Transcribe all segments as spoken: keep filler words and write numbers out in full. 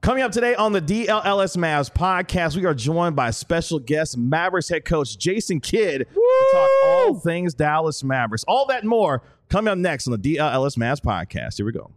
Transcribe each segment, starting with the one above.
Coming up today on the D L L S Mavs podcast, we are joined by special guest Mavericks head coach Jason Kidd Woo! to talk all things Dallas Mavericks. All that and more coming up next on the D L L S Mavs podcast. Here we go.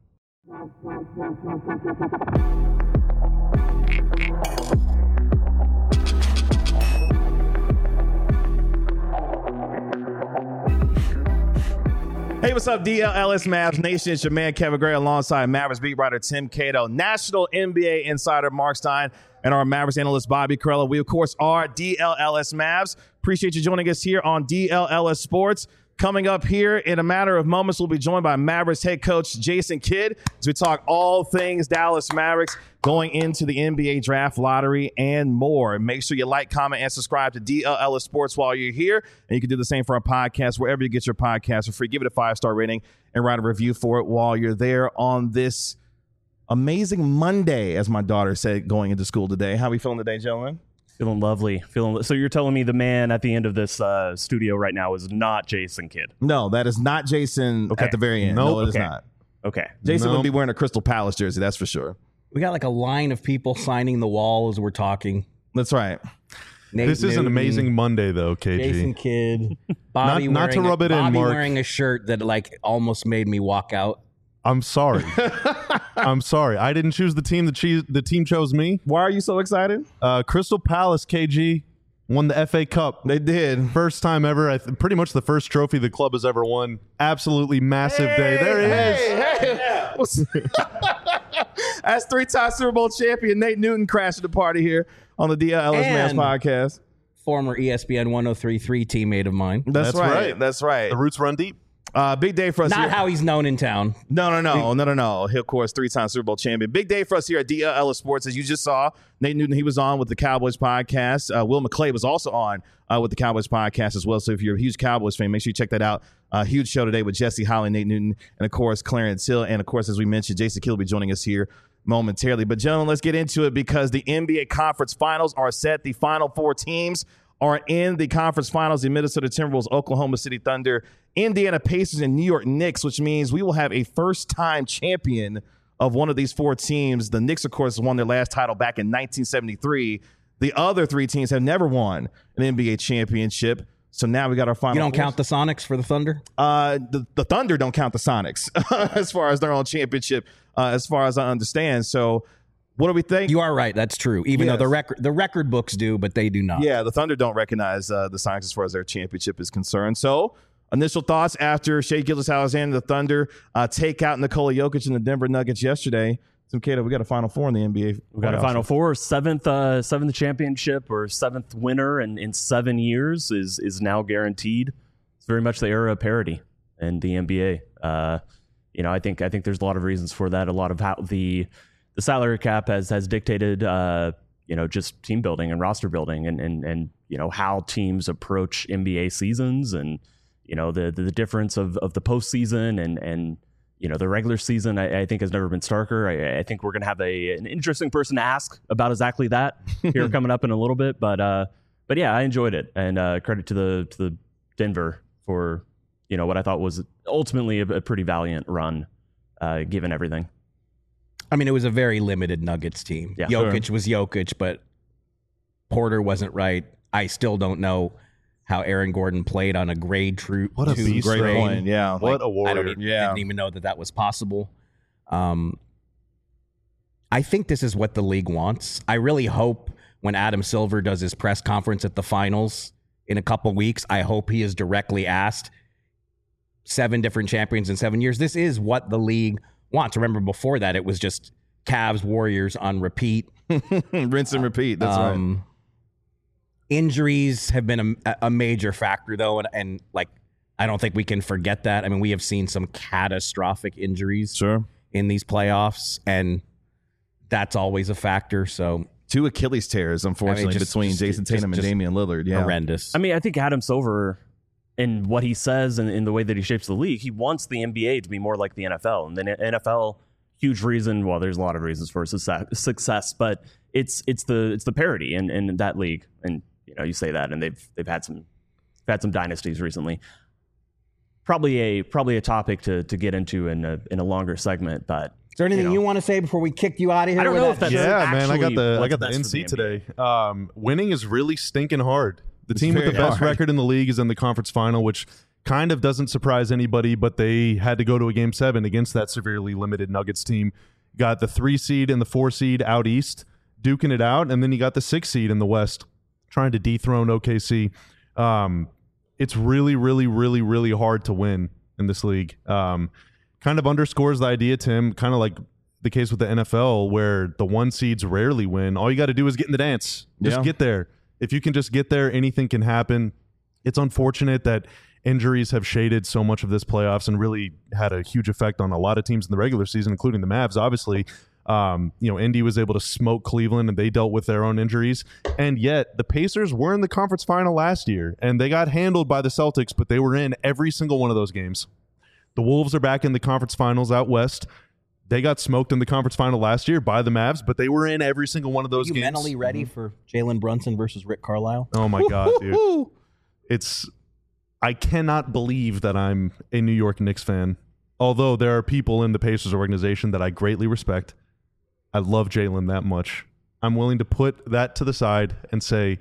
Hey, what's up, D L L S Mavs Nation? It's your man, Kevin Gray, alongside Mavericks beat writer Tim Cato, national N B A insider Mark Stein, and our Mavericks analyst Bobby Carella. We, of course, are D L L S Mavs. Appreciate you joining us here on D L L S Sports. Coming up here in a matter of moments, we'll be joined by Mavericks head coach Jason Kidd as we talk all things Dallas Mavericks going into the N B A draft lottery and more. Make sure you like, comment, and subscribe to D L L S Sports while you're here. And you can do the same for our podcast, wherever you get your podcast for free. Give it a five-star rating and write a review for it while you're there on this amazing Monday, as my daughter said, going into school today. How are we feeling today, gentlemen? Feeling lovely. Feeling. So you're telling me the man at the end of this uh, studio right now is not Jason Kidd? No, that is not Jason okay. at the very end. Nope. No, it okay. is not. Okay. Jason nope. would be wearing a Crystal Palace jersey, that's for sure. We got like a line of people signing the wall as we're talking. That's right. Nate This is Newton, an amazing Monday, though, K G. Jason Kidd. Bobby Not- not to wearing rub a, it in, Bobby Mark. wearing a shirt that like almost made me walk out. I'm sorry. I'm sorry. I didn't choose the team. The, che- the team chose me. Why are you so excited? Uh, Crystal Palace, K G, won the F A Cup. They did. First time ever. I th- pretty much the first trophy the club has ever won. Absolutely massive day. There he is. Hey, hey. That's three-time Super Bowl champion Nate Newton crashing the party here on the D L L S Mavs And- podcast. Former E S P N one oh three point three teammate of mine. That's, That's right. right. That's right. The roots run deep. Uh, big day for us Not here. how he's known in town. No, no, no, no, no, no. He, of course, three-time Super Bowl champion. Big day for us here at D L L S Sports. As you just saw, Nate Newton, he was on with the Cowboys podcast. Uh, Will McClay was also on uh, with the Cowboys podcast as well. So if you're a huge Cowboys fan, make sure you check that out. Uh, huge show today with Jesse Holly, Nate Newton, and, of course, Clarence Hill. And, of course, as we mentioned, Jason Kidd will be joining us here momentarily. But, gentlemen, let's get into it because the N B A Conference Finals are set. The final four teams are in the conference finals: the Minnesota Timberwolves, Oklahoma City Thunder, Indiana Pacers, and New York Knicks, which means we will have a first-time champion of one of these four teams. The Knicks, of course, won their last title back in nineteen seventy-three. The other three teams have never won an N B A championship. So now we got our final. You don't four. count the Sonics for the Thunder? Uh, the, the Thunder don't count the Sonics as far as their own championship, uh, as far as I understand. So what do we think? You are right. That's true. Even Yes. though the record the record books do, but they do not. Yeah, the Thunder don't recognize uh, the Sonics as far as their championship is concerned. So, initial thoughts after Shai Gilgeous-Alexander, the Thunder, uh, take out Nikola Jokic and the Denver Nuggets yesterday. Tim Cato, we got a Final Four in the N B A. We got a Final Four, seventh, uh, seventh championship or seventh winner, and in seven years is is now guaranteed. It's very much the era of parity in the N B A. Uh, you know, I think I think there's a lot of reasons for that. A lot of how the the salary cap has has dictated, uh, you know, just team building and roster building, and and and you know how teams approach N B A seasons, and you know the the, the difference of of the postseason and and you know the regular season. I, I think has never been starker. I, I think we're gonna have a an interesting person to ask about exactly that here coming up in a little bit. But uh, but yeah, I enjoyed it, and uh, credit to the to the Denver for you know what I thought was ultimately a, a pretty valiant run, uh, given everything. I mean, it was a very limited Nuggets team. Yeah, Jokic was Jokic, but Porter wasn't right. I still don't know how Aaron Gordon played on a grade true. What a two beast, Great strain. point, yeah. What a I warrior. don't even, Yeah. didn't even know that that was possible. Um, I think this is what the league wants. I really hope when Adam Silver does his press conference at the finals in a couple weeks, I hope he is directly asked seven different champions in seven years. This is what the league wants. Remember, before that, it was just Cavs, Warriors on repeat. Rinse and repeat. That's right. Um, Injuries have been a, a major factor, though, and, and like I don't think we can forget that. I mean, we have seen some catastrophic injuries Sure. in these playoffs, and that's always a factor. So Two Achilles tears, unfortunately, just- between just- Jason just- Tatum and just Damian Lillard. Yeah. horrendous. I mean, I think Adam Silver, in what he says and in the way that he shapes the league, he wants the N B A to be more like the N F L. And the N F L, huge reason. Well, there's a lot of reasons for success, success but it's it's the it's the parity in, in that league. And you know, you say that, and they've they've had some they've had some dynasties recently. Probably a probably a topic to to get into in a in a longer segment, but Is there anything you, know, you want to say before we kick you out of here? I don't with know that? if that's Yeah, man, I got actually the I what's got the best N for C the N B A. today. Um, winning is really stinking hard. The It's team with the very best hard. record in the league is in the conference final, which kind of doesn't surprise anybody, but they had to go to a game seven against that severely limited Nuggets team. Got the three seed and the four seed out east, duking it out, and then you got the six seed in the west, trying to dethrone O K C. Um, it's really, really, really, really hard to win in this league. Um, kind of underscores the idea, Tim, kind of like the case with the N F L, where the one seeds rarely win. All you got to do is get in the dance. Just Yeah. get there. If you can just get there, anything can happen. It's unfortunate that injuries have shaded so much of this playoffs and really had a huge effect on a lot of teams in the regular season, including the Mavs, obviously. Um, you know, Indy was able to smoke Cleveland and they dealt with their own injuries. And yet the Pacers were in the conference final last year and they got handled by the Celtics, but they were in every single one of those games. The Wolves are back in the conference finals out west. They got smoked in the conference final last year by the Mavs, but they were in every single one of those Are you games. mentally ready for Jalen Brunson versus Rick Carlisle? Oh my God, dude. It's, I cannot believe that I'm a New York Knicks fan. Although there are people in the Pacers organization that I greatly respect. I love Jalen that much. I'm willing to put that to the side and say,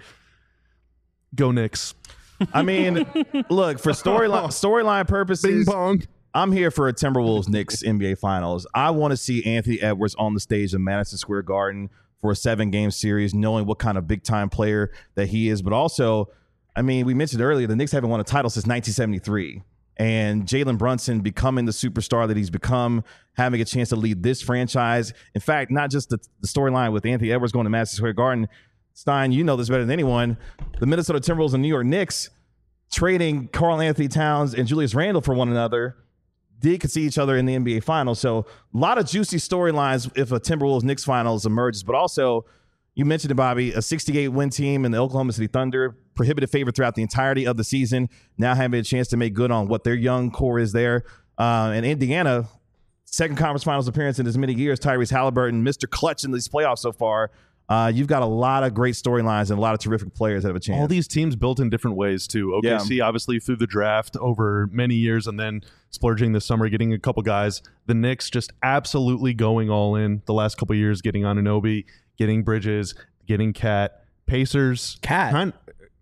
go Knicks. I mean, look, for storyline storyline purposes, Bing bong. I'm here for a Timberwolves Knicks N B A Finals. I want to see Anthony Edwards on the stage of Madison Square Garden for a seven-game series, knowing what kind of big-time player that he is. But also, I mean, we mentioned earlier, the Knicks haven't won a title since nineteen seventy-three. And Jalen Brunson becoming the superstar that he's become, having a chance to lead this franchise. In fact, not just the, the storyline with Anthony Edwards going to Madison Square Garden. Stein, you know this better than anyone. The Minnesota Timberwolves and New York Knicks trading Karl Anthony Towns and Julius Randle for one another did see each other in the N B A Finals. So a lot of juicy storylines if a Timberwolves Knicks Finals emerges. But also, you mentioned it, Bobby, a sixty-eight win team in the Oklahoma City Thunder, prohibitive favorite throughout the entirety of the season, now having a chance to make good on what their young core is there. Uh, and Indiana, second conference finals appearance in as many years, Tyrese Halliburton, Mister Clutch in these playoffs so far. Uh, you've got a lot of great storylines and a lot of terrific players that have a chance. All these teams built in different ways, too. O K C, Yeah. obviously, through the draft over many years and then splurging this summer, getting a couple guys. The Knicks just absolutely going all in the last couple years, getting Anunoby, getting Bridges, getting Cat. Pacers. Cat? Kind,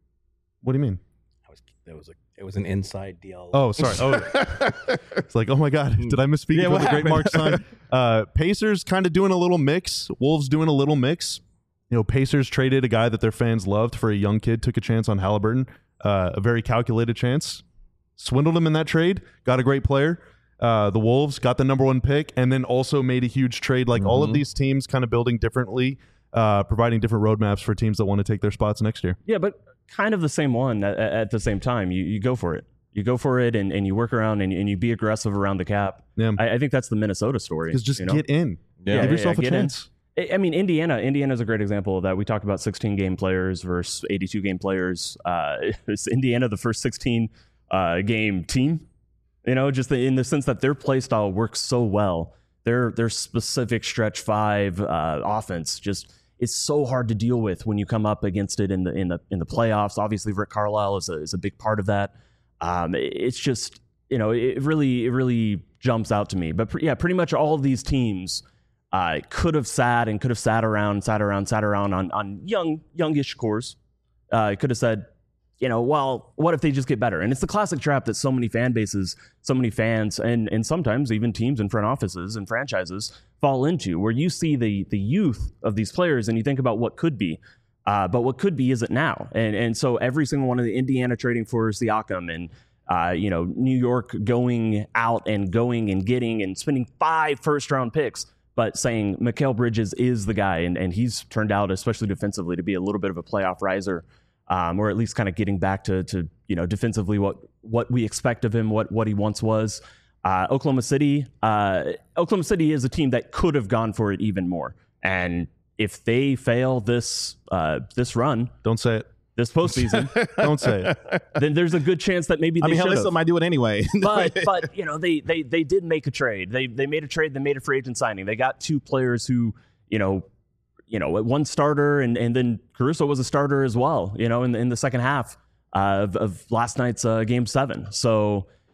what do you mean? That was, that was a, it was an inside deal. Oh, sorry. Oh, it's like, oh my God, did I misspeak Yeah, for what the great happened? Mark Stein? Uh, Pacers kind of doing a little mix. Wolves doing a little mix. You know, Pacers traded a guy that their fans loved for a young kid, took a chance on Halliburton, uh, a very calculated chance. Swindled him in that trade, got a great player. Uh, the Wolves got the number one pick and then also made a huge trade. Like all of these teams kind of building differently, uh, providing different roadmaps for teams that want to take their spots next year. Yeah, but kind of the same one at, at the same time. You you go for it. You go for it and, and you work around and, and you be aggressive around the cap. Yeah. I, I think that's the Minnesota story. Because just you know? get in. Yeah, Give yeah, yourself yeah, a get in. chance. I mean, Indiana. Indiana's a great example of that. We talked about sixteen game players versus eighty-two game players. Uh, is Indiana the first sixteen uh, game team? You know, just in the sense that their play style works so well. Their their specific stretch five uh, offense just is so hard to deal with when you come up against it in the in the in the playoffs. Obviously, Rick Carlisle is a is a big part of that. Um, it's just you know it really it really jumps out to me. But pre- yeah, pretty much all of these teams. Uh, could have sat and could have sat around, sat around, sat around on, on young, youngish cores. Uh, could have said, you know, well, what if they just get better? And it's the classic trap that so many fan bases, so many fans, and and sometimes even teams and front offices and franchises fall into, where you see the the youth of these players and you think about what could be, uh, but what could be isn't now. And and so every single one of the Indiana trading for Siakam and uh, you know New York going out and going and getting and spending five first round picks. But saying Mikal Bridges is the guy, and, and he's turned out, especially defensively, to be a little bit of a playoff riser, um, or at least kind of getting back to, to you know defensively what what we expect of him, what what he once was. Uh, Oklahoma City, uh, Oklahoma City is a team that could have gone for it even more, and if they fail this uh, this run, Don't say it. this postseason, Don't say it. then there's a good chance that maybe they I mean, hell, should they have. still might do it anyway. but but you know they they they did make a trade. They they made a trade. They made a free agent signing. They got two players who you know you know one starter and and then Caruso was a starter as well. You know in the, in the second half uh, of of last night's uh, game seven. So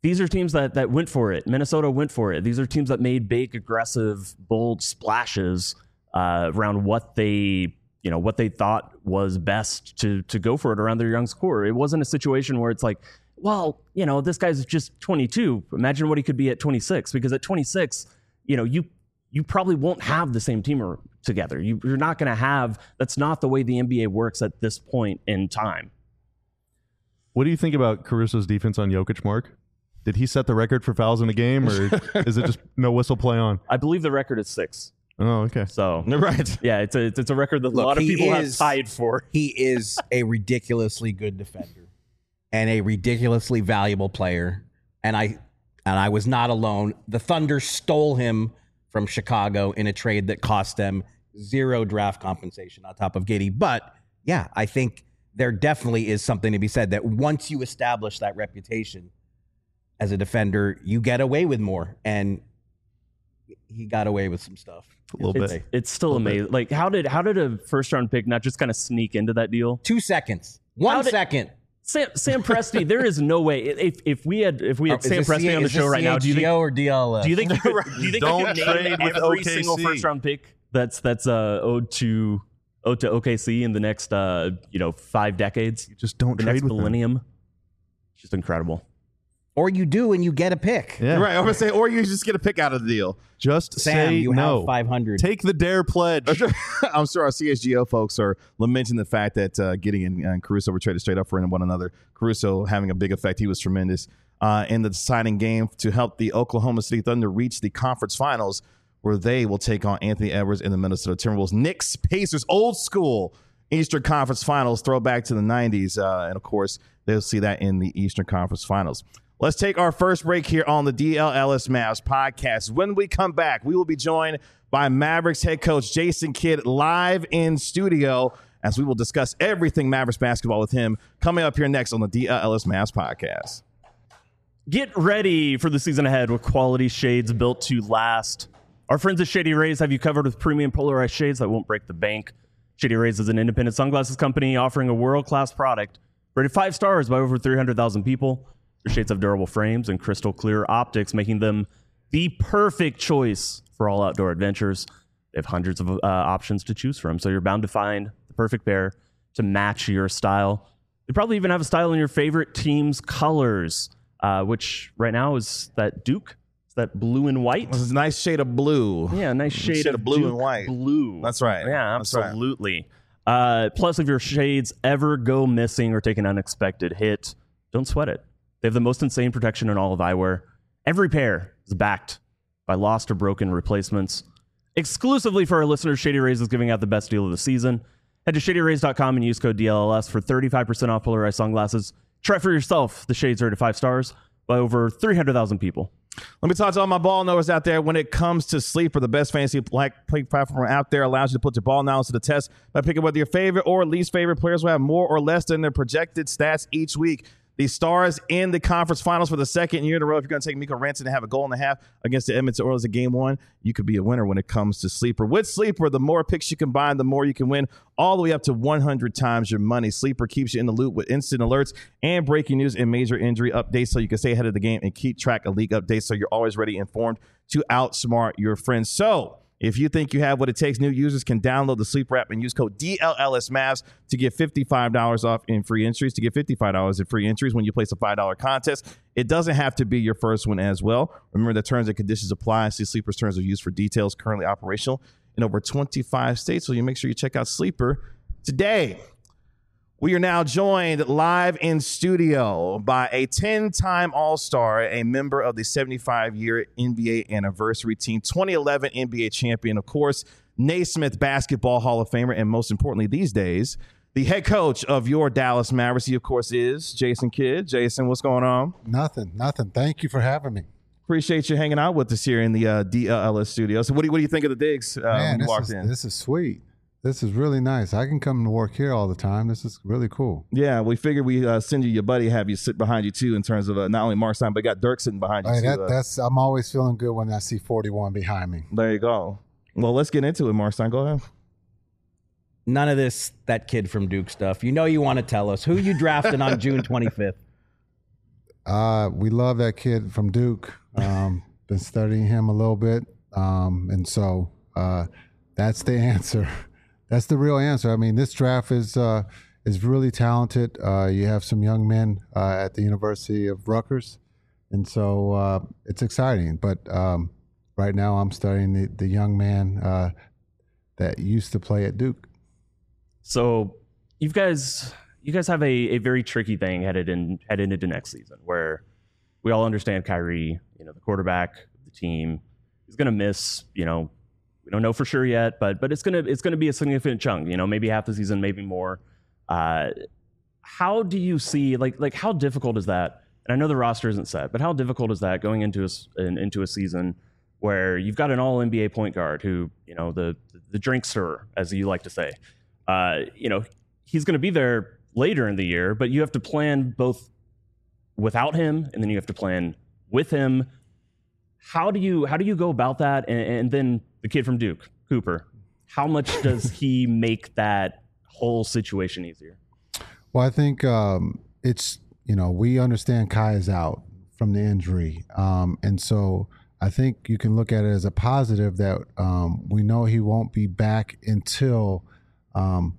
these are teams that that went for it. Minnesota went for it. These are teams that made big, aggressive, bold splashes uh, around what they, you know, what they thought was best to to go for it around their young core. It wasn't a situation where it's like, well, you know, this guy's just twenty-two. Imagine what he could be at twenty-six. Because at twenty-six, you know, you you probably won't have the same team together. You, you're not going to have. That's not the way the N B A works at this point in time. What do you think about Caruso's defense on Jokic, Mark? Did he set the record for fouls in a game, or is it just no whistle play on? I believe the record is six. Oh, okay. So Right. yeah, it's a it's a record that Look, a lot of he people is- have tied for. He is a ridiculously good defender and a ridiculously valuable player. And I and I was not alone. The Thunder stole him from Chicago in a trade that cost them zero draft compensation on top of Giddey. But yeah, I think there definitely is something to be said that once you establish that reputation as a defender, you get away with more. And he got away with some stuff. A little It's, bit. it's still amazing. Like how did how did a first round pick not just kind of sneak into that deal? Two seconds. One How did- second. Sam, Sam Presti, there is no way. If if we had if we had Oh, is Sam this Presti C- on the is show this right now, do you C H G O think or D L S? do you think you could, do you think Don't you could trade name with every O K C. single first round pick that's that's uh, owed to owed to O K C in the next uh, you know five decades, You just don't the trade next with them. millennium? It's just incredible. Or you do and you get a pick. Yeah. Right. I'm gonna say, or you just get a pick out of the deal. Just Sam, say you no. have five hundred. Take the dare pledge. I'm sure our C S G O folks are lamenting the fact that uh, Gideon and Caruso were traded straight up for one another. Caruso having a big effect. He was tremendous uh, in the deciding game to help the Oklahoma City Thunder reach the conference finals, where they will take on Anthony Edwards and the Minnesota Timberwolves. Knicks, Pacers, old school Eastern Conference Finals, throwback to the nineties. Uh, and, of course, they'll see that in the Eastern Conference Finals. Let's take our first break here on the D L L S Mavs podcast. When we come back, we will be joined by Mavericks head coach Jason Kidd live in studio as we will discuss everything Mavericks basketball with him coming up here next on the D L L S Mavs podcast. Get ready for the season ahead with quality shades built to last. Our friends at Shady Rays have you covered with premium polarized shades that won't break the bank. Shady Rays is an independent sunglasses company offering a world-class product rated five stars by over three hundred thousand people. Their shades have durable frames and crystal clear optics, making them the perfect choice for all outdoor adventures. They have hundreds of uh, options to choose from, so you're bound to find the perfect pair to match your style. They probably even have a style in your favorite team's colors, uh, which right now is that Duke. It's that blue and white. This is a nice shade of blue. Yeah, a nice shade, Shade of of blue Duke and white. Blue. That's right. Yeah, That's right. absolutely. Uh, plus, if your shades ever go missing or take an unexpected hit, don't sweat it. They have the most insane protection in all of eyewear. Every pair is backed by lost or broken replacements. Exclusively for our listeners, Shady Rays is giving out the best deal of the season. Head to shady rays dot com and use code D L L S for thirty-five percent off polarized sunglasses. Try for yourself. The shades are rated five stars by over three hundred thousand people. Let me talk to all my ball knowers out there. When it comes to Sleeper, the best fantasy play platform out there, allows you to put your ball knowledge to the test by picking whether your favorite or least favorite players will have more or less than their projected stats each week. The Stars in the conference finals for the second year in a row. If you're going to take Miko Ranson and have a goal and a half against the Edmonton Oilers in game one, you could be a winner when it comes to Sleeper. With Sleeper, the more picks you combine, the more you can win, all the way up to one hundred times your money. Sleeper keeps you in the loop with instant alerts and breaking news and major injury updates so you can stay ahead of the game and keep track of league updates so you're always ready and informed to outsmart your friends. So, if you think you have what it takes, new users can download the Sleeper app and use code D L L S Mavs to get fifty-five dollars off in free entries. To get fifty-five dollars in free entries when you place a five dollar contest, it doesn't have to be your first one as well. Remember, the terms and conditions apply. See Sleeper's terms of use for details. Currently operational in over twenty-five states, so you make sure you check out Sleeper today. We are now joined live in studio by a ten-time All-Star, a member of the seventy-five-year N B A anniversary team, twenty eleven N B A champion, of course, Naismith Basketball Hall of Famer, and most importantly these days, the head coach of your Dallas Mavericks, he, of course, is Jason Kidd. Jason, what's going on? Nothing, nothing. Thank you for having me. Appreciate you hanging out with us here in the uh, D L L S studio. So what do you, what do you think of the digs uh, Man, when you this walked is, in? this is sweet. This is really nice. I can come to work here all the time. This is really cool. Yeah, we figured we uh, send you your buddy, have you sit behind you too, in terms of uh, not only Mark Stein, but you got Dirk sitting behind you Hey, too. that, uh, that's I'm always feeling good when I see forty-one behind me. there you go. Well, let's get into it, Mark Stein. Go ahead. None of this, that kid from Duke stuff. You know you want to tell us. Who you drafted on June twenty-fifth? Uh, we love that kid from Duke. Um, been studying him a little bit, um, and so uh, that's the answer. That's the real answer. I mean, this draft is uh, is really talented. Uh, you have some young men uh, at the University of Rutgers, and so uh, it's exciting. But um, right now, I'm studying the, the young man uh, that used to play at Duke. So you guys, you guys have a, a very tricky thing headed in headed into next season, where we all understand Kyrie, you know, the quarterback of the team, is going to miss. You know, we don't know for sure yet, but but it's gonna it's gonna be a significant chunk. You know, maybe half the season, maybe more. Uh, how do you see like like how difficult is that? And I know the roster isn't set, but how difficult is that going into a, an, into a season where you've got an all N B A point guard who, you know, the the drinkster, as you like to say. Uh, you know, he's going to be there later in the year, but you have to plan both without him, and then you have to plan with him. How do you how do you go about that? And, and then the kid from Duke, Cooper, how much does he make that whole situation easier? Well, I think um, it's, you know, we understand Kai is out from the injury, um, and so I think you can look at it as a positive that um, we know he won't be back until Um,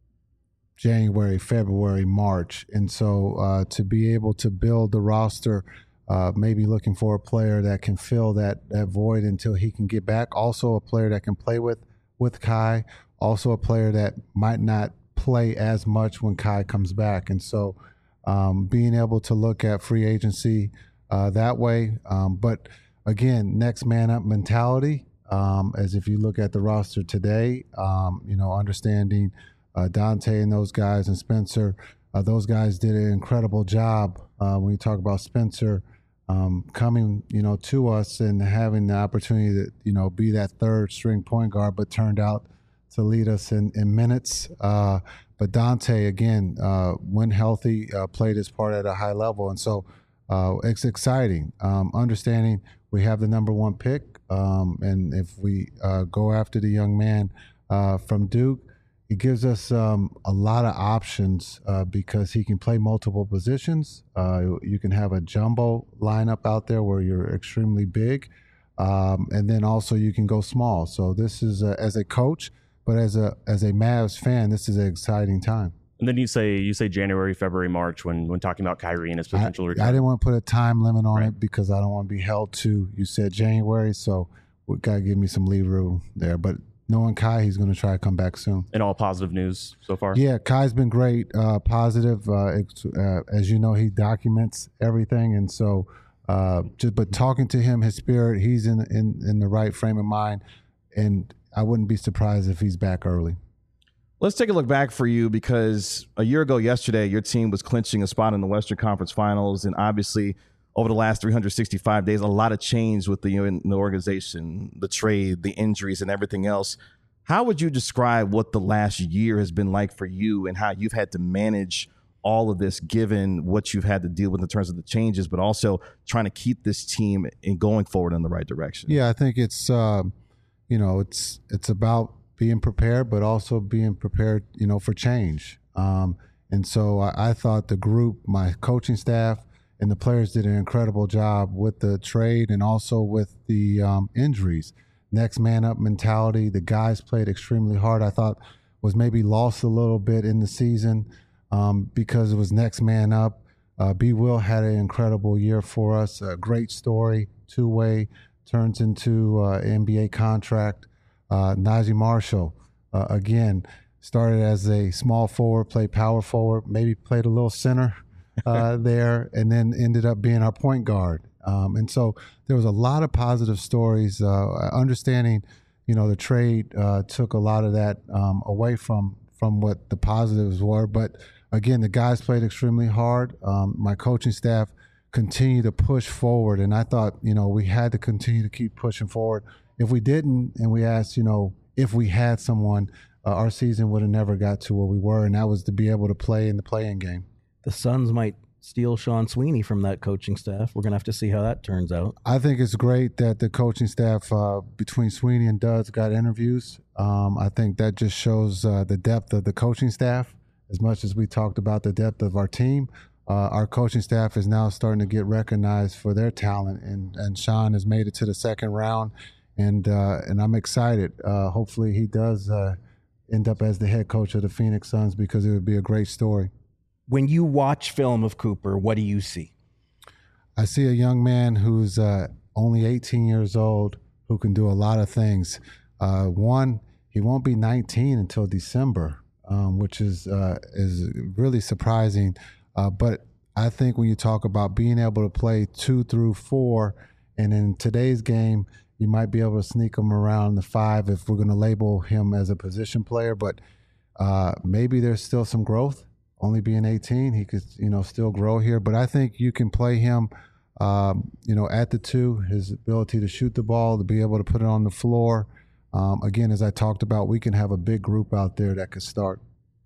January, February, March. And so uh, to be able to build the roster, uh, maybe looking for a player that can fill that, that void until he can get back. Also a player that can play with, with Kai. Also a player that might not play as much when Kai comes back. And so um, being able to look at free agency uh, that way. Um, but again, next man up mentality. Um, as if you look at the roster today, um, you know, understanding uh, Dante and those guys and Spencer, uh, those guys did an incredible job uh, when you talk about Spencer um, coming, you know, to us and having the opportunity to, you know, be that third string point guard, but turned out to lead us in, in minutes. Uh, but Dante, again, uh, when healthy, uh, played his part at a high level. And so uh, it's exciting, um, understanding we have the number one pick. Um, and if we uh, go after the young man uh, from Duke, it gives us um, a lot of options uh, because he can play multiple positions. Uh, you can have a jumbo lineup out there where you're extremely big, um, and then also you can go small. So this is a, as a coach, but as a as a Mavs fan, this is an exciting time. And then you say you say January, February, March when when talking about Kyrie and his potential I, return. I didn't want to put a time limit on Right. it because I don't want to be held to. You said January, so we got to give me some leave room there. But knowing Kai, he's going to try to come back soon. And all positive news so far. Yeah, Kai's been great, uh, positive. Uh, it's, uh, as you know, he documents everything, and so uh, just but talking to him, his spirit, he's in in in the right frame of mind, and I wouldn't be surprised if he's back early. Let's take a look back for you because a year ago yesterday, your team was clinching a spot in the Western Conference Finals. And obviously, over the last three hundred sixty-five days, a lot of change with the, in the organization, the trade, the injuries, and everything else. How would you describe what the last year has been like for you and how you've had to manage all of this, given what you've had to deal with in terms of the changes, but also trying to keep this team in going forward in the right direction? Yeah, I think it's, uh, you know, it's it's about being prepared, but also being prepared, you know, for change. Um, and so I, I thought the group, my coaching staff, and the players did an incredible job with the trade and also with the um, injuries. Next man up mentality. The guys played extremely hard. I thought was maybe lost a little bit in the season um, because it was next man up. Uh, B. Will had an incredible year for us. A great story, two-way, turns into uh, N B A contract. Uh, Najee Marshall, uh, again, started as a small forward, played power forward, maybe played a little center uh, there, and then ended up being our point guard. Um, and so there was a lot of positive stories. Uh, understanding, you know, the trade uh, took a lot of that um, away from from what the positives were. But again, the guys played extremely hard. Um, my coaching staff continued to push forward, and I thought, you know, we had to continue to keep pushing forward. If we didn't, and we asked, you know, if we had someone, uh, our season would have never got to where we were, and that was to be able to play in the play-in game. The Suns might steal Sean Sweeney from that coaching staff. We're going to have to see how that turns out. I think it's great that the coaching staff uh, between Sweeney and Duds got interviews. Um, I think that just shows uh, the depth of the coaching staff. As much as we talked about the depth of our team, uh, our coaching staff is now starting to get recognized for their talent, and and Sean has made it to the second round, and uh, and I'm excited. Uh, hopefully, he does uh, end up as the head coach of the Phoenix Suns, because it would be a great story. When you watch film of Cooper, what do you see? I see a young man who's uh, only eighteen years old, who can do a lot of things. Uh, one, he won't be nineteen until December, um, which is uh, is really surprising. Uh, but I think when you talk about being able to play two through four, and in today's game, you might be able to sneak him around the five if we're going to label him as a position player. But uh, maybe there's still some growth. Only being eighteen, he could, you know, still grow here. But I think you can play him, um, you know, at the two. His ability to shoot the ball, to be able to put it on the floor. Um, again, as I talked about, we can have a big group out there that could start.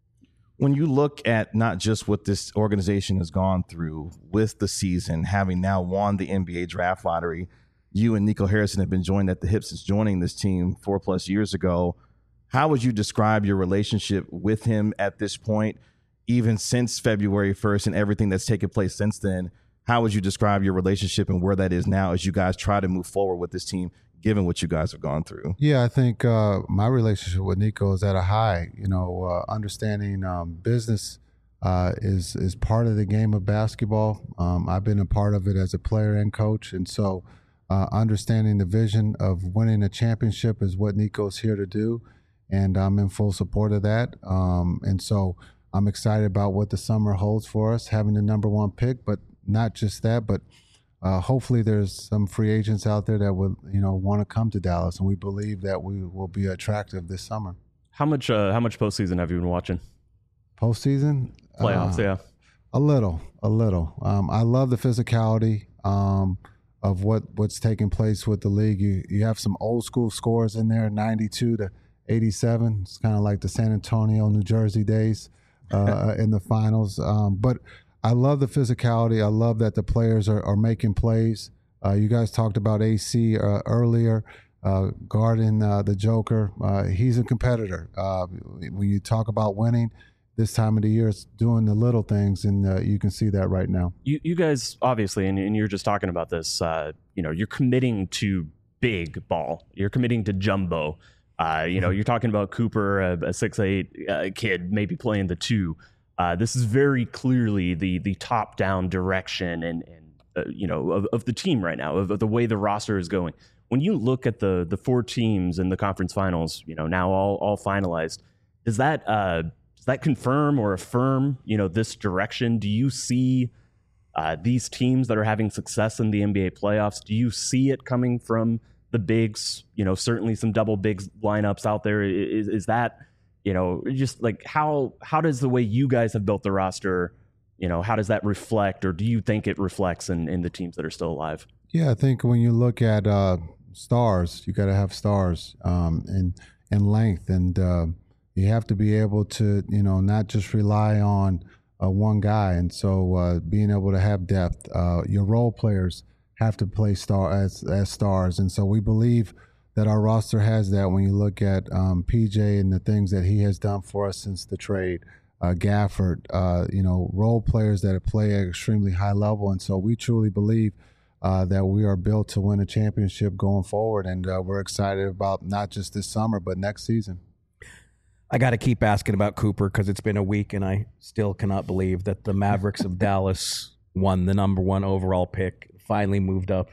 When you look at not just what this organization has gone through with the season, having now won the N B A draft lottery, you and Nico Harrison have been joined at the hip since joining this team four plus years ago. How would you describe your relationship with him at this point, even since February first and everything that's taken place since then? How would you describe your relationship and where that is now as you guys try to move forward with this team, given what you guys have gone through? Yeah, I think uh, my relationship with Nico is at a high. You know, uh, understanding um, business uh, is is part of the game of basketball. Um, I've been a part of it as a player and coach, and so uh, understanding the vision of winning a championship is what Nico's here to do, and I'm in full support of that. Um, and so I'm excited about what the summer holds for us, having the number one pick, but not just that, but Uh, hopefully there's some free agents out there that would, you know, want to come to Dallas, and we believe that we will be attractive this summer. How much uh, how much postseason have you been watching? Postseason? Playoffs, Uh, yeah. A little, a little. Um, I love the physicality um, of what, what's taking place with the league. You you have some old school scores in there, ninety-two to eighty-seven. It's kind of like the San Antonio, New Jersey days uh, in the finals. Um, but I love the physicality. I love that the players are, are making plays. Uh, you guys talked about A C uh, earlier, uh, guarding uh, the Joker. Uh, he's a competitor. Uh, when you talk about winning, this time of the year, it's doing the little things, and uh, you can see that right now. You, you guys, obviously, and, and you're just talking about this, uh, you know, you're committing to big ball. You're committing to jumbo. Uh, you know, you're talking about Cooper, a, a six eight uh, kid, maybe playing the two. Uh, this is very clearly the the top down direction and and uh, you know of, of the team right now, of, of the way the roster is going. When you look at the the four teams in the conference finals, you know, now all all finalized, does that uh, does that confirm or affirm, you know, this direction? Do you see uh, these teams that are having success in the N B A playoffs? Do you see it coming from the bigs? You know, certainly some double bigs lineups out there. Is is that, you know, just like how how does the way you guys have built the roster, you know, how does that reflect, or do you think it reflects in, in the teams that are still alive? Yeah, I think when you look at uh, stars, you got to have stars um, in in length, and uh, you have to be able to, you know, not just rely on uh, one guy. And so uh, being able to have depth, uh, your role players have to play star as as stars, and so we believe that our roster has that. When you look at um, P J and the things that he has done for us since the trade, uh, Gafford, uh, you know, role players that play at extremely high level. And so we truly believe uh, that we are built to win a championship going forward. And uh, we're excited about not just this summer, but next season. I got to keep asking about Cooper because it's been a week and I still cannot believe that the Mavericks of Dallas won the number one overall pick, finally moved up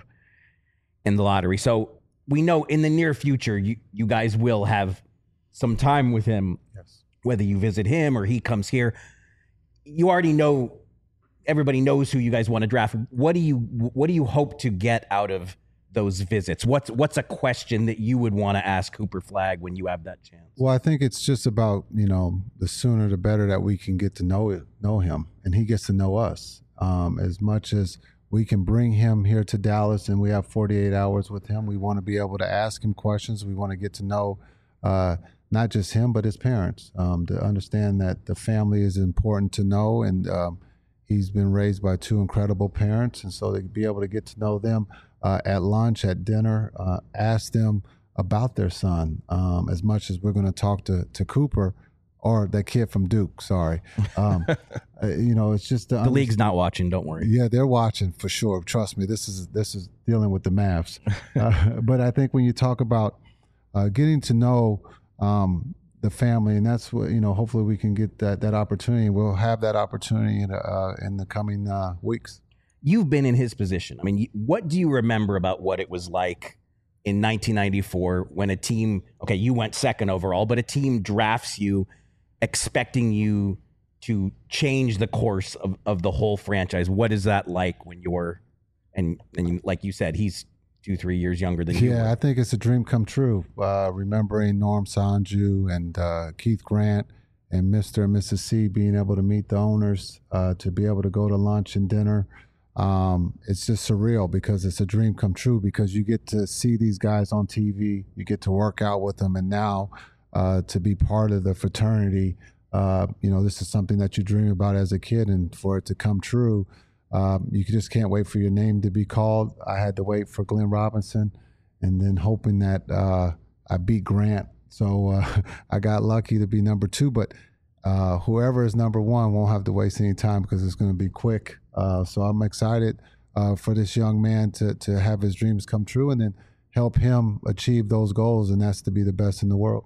in the lottery. So we know in the near future, you, you guys will have some time with him, Yes. whether you visit him or he comes here. You already know, everybody knows who you guys want to draft. What do you what do you hope to get out of those visits? What's what's a question that you would want to ask Cooper Flagg when you have that chance? Well, I think it's just about, you know, the sooner the better that we can get to know know him, and he gets to know us. Um, as much as we can bring him here to Dallas and we have forty-eight hours with him, we want to be able to ask him questions. We want to get to know uh, not just him, but his parents, um, to understand that the family is important to know. And um, he's been raised by two incredible parents. And so to be able to get to know them uh, at lunch, at dinner, uh, ask them about their son. Um, as much as we're going to talk to, to Cooper, or that kid from Duke. Sorry, um, uh, you know, it's just The league's not watching. Don't worry. Yeah, they're watching for sure. Trust me. This is this is dealing with the Mavs. Uh, but I think when you talk about uh, getting to know um, the family, and that's what you know. Hopefully, we can get that that opportunity. We'll have that opportunity in uh, in the coming uh, weeks. You've been in his position. I mean, you- what do you remember about what it was like in nineteen ninety-four when a team, okay, you went second overall, but a team drafts you expecting you to change the course of, of the whole franchise? What is that like when you're, and, and you, like you said, he's two, three years younger than you Yeah, were. I think it's a dream come true. Uh, remembering Norm Sanju and uh, Keith Grant and Mister and Missus C being able to meet the owners, uh, to be able to go to lunch and dinner. Um, it's just surreal because it's a dream come true because you get to see these guys on T V, you get to work out with them, and now uh, to be part of the fraternity, uh, you know, this is something that you dream about as a kid, and for it to come true, um, you just can't wait for your name to be called. I had to wait for Glenn Robinson, and then hoping that uh, I beat Grant. So uh, I got lucky to be number two, but uh, whoever is number one won't have to waste any time because it's going to be quick. Uh, so I'm excited uh, for this young man to to have his dreams come true and then help him achieve those goals, and that's to be the best in the world.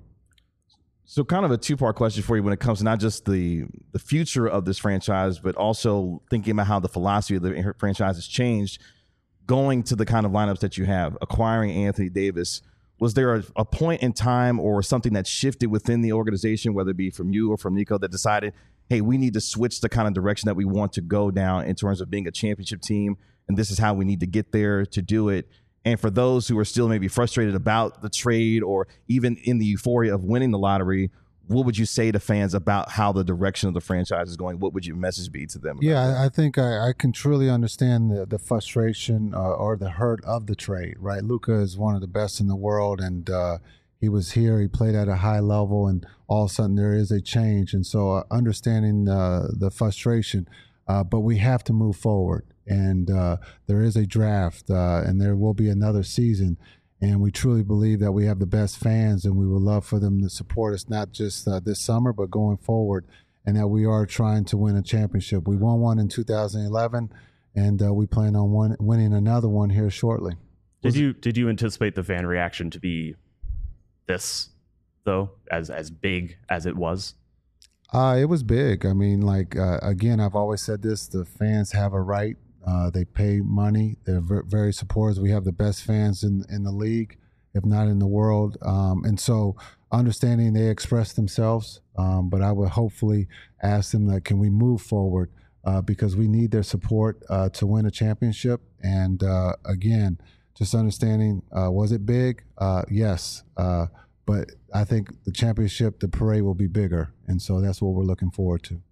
So kind of a two-part question for you when it comes to not just the the future of this franchise, but also thinking about how the philosophy of the franchise has changed, going to the kind of lineups that you have, acquiring Anthony Davis. Was there a, a point in time or something that shifted within the organization, whether it be from you or from Nico, that decided, hey, we need to switch the kind of direction that we want to go down in terms of being a championship team, and this is how we need to get there to do it? And for those who are still maybe frustrated about the trade or even in the euphoria of winning the lottery, what would you say to fans about how the direction of the franchise is going? What would your message be to them? Yeah, I, I think I, I can truly understand the, the frustration uh, or the hurt of the trade, right? Luka is one of the best in the world, and uh, he was here. He played at a high level, and all of a sudden there is a change. And so uh, understanding uh, the frustration, uh, but we have to move forward. And uh, there is a draft, uh, and there will be another season. And we truly believe that we have the best fans, and we would love for them to support us, not just uh, this summer, but going forward, and that we are trying to win a championship. We won one in two thousand eleven, and uh, we plan on one, winning another one here shortly. Did you did you anticipate the fan reaction to be this, though, as as big as it was? Uh, it was big. I mean, like, uh, again, I've always said this, the fans have a right. Uh, they pay money. They're ver- very supportive. We have the best fans in, in the league, if not in the world. Um, and so understanding they express themselves, um, but I would hopefully ask them, that, can we move forward? Uh, because we need their support uh, to win a championship. And uh, again, just understanding, uh, was it big? Uh, yes. Uh, but I think the championship, the parade will be bigger. And so that's what we're looking forward to.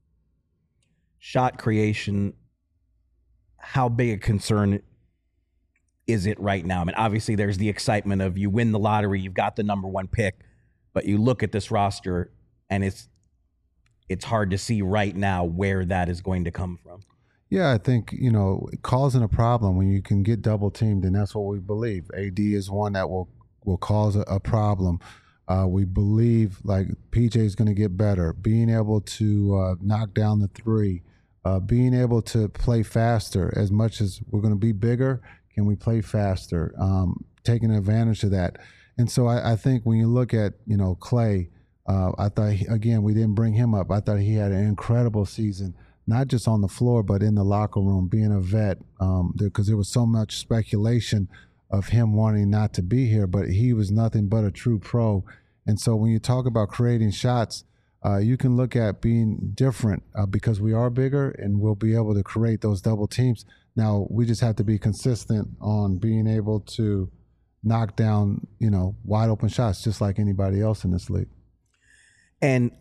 Shot creation, how big a concern is it right now? I mean, obviously there's the excitement of you win the lottery, you've got the number one pick, but you look at this roster and it's it's hard to see right now where that is going to come from. Yeah, I think, you know, causing a problem when you can get double teamed, and that's what we believe. A D is one that will, will cause a, a problem. Uh, we believe, like, P J is going to get better, being able to uh, knock down the three, uh, being able to play faster. As much as we're going to be bigger, can we play faster? Um, taking advantage of that. And so I, I think when you look at, you know, Clay, uh, I thought, he, again, we didn't bring him up. I thought he had an incredible season, not just on the floor, but in the locker room, being a vet, um, because there was so much speculation of him wanting not to be here, but he was nothing but a true pro. And so when you talk about creating shots, uh, you can look at being different uh, because we are bigger and we'll be able to create those double teams. Now, we just have to be consistent on being able to knock down, you know, wide open shots just like anybody else in this league. And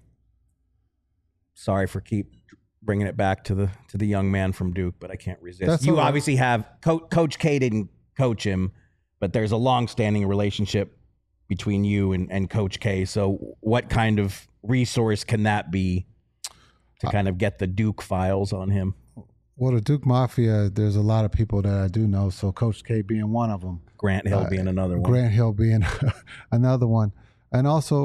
sorry for keep bringing it back to the to the young man from Duke, but I can't resist. That's you all right. obviously have Co- Coach K didn't coach him, but there's a long-standing relationship between you and, and Coach K. So what kind of resource can that be to kind of get the Duke files on him? Well, the Duke Mafia, there's a lot of people that I do know. So Coach K being one of them. Grant Hill Uh, being another one. Grant Hill being another one. And also uh,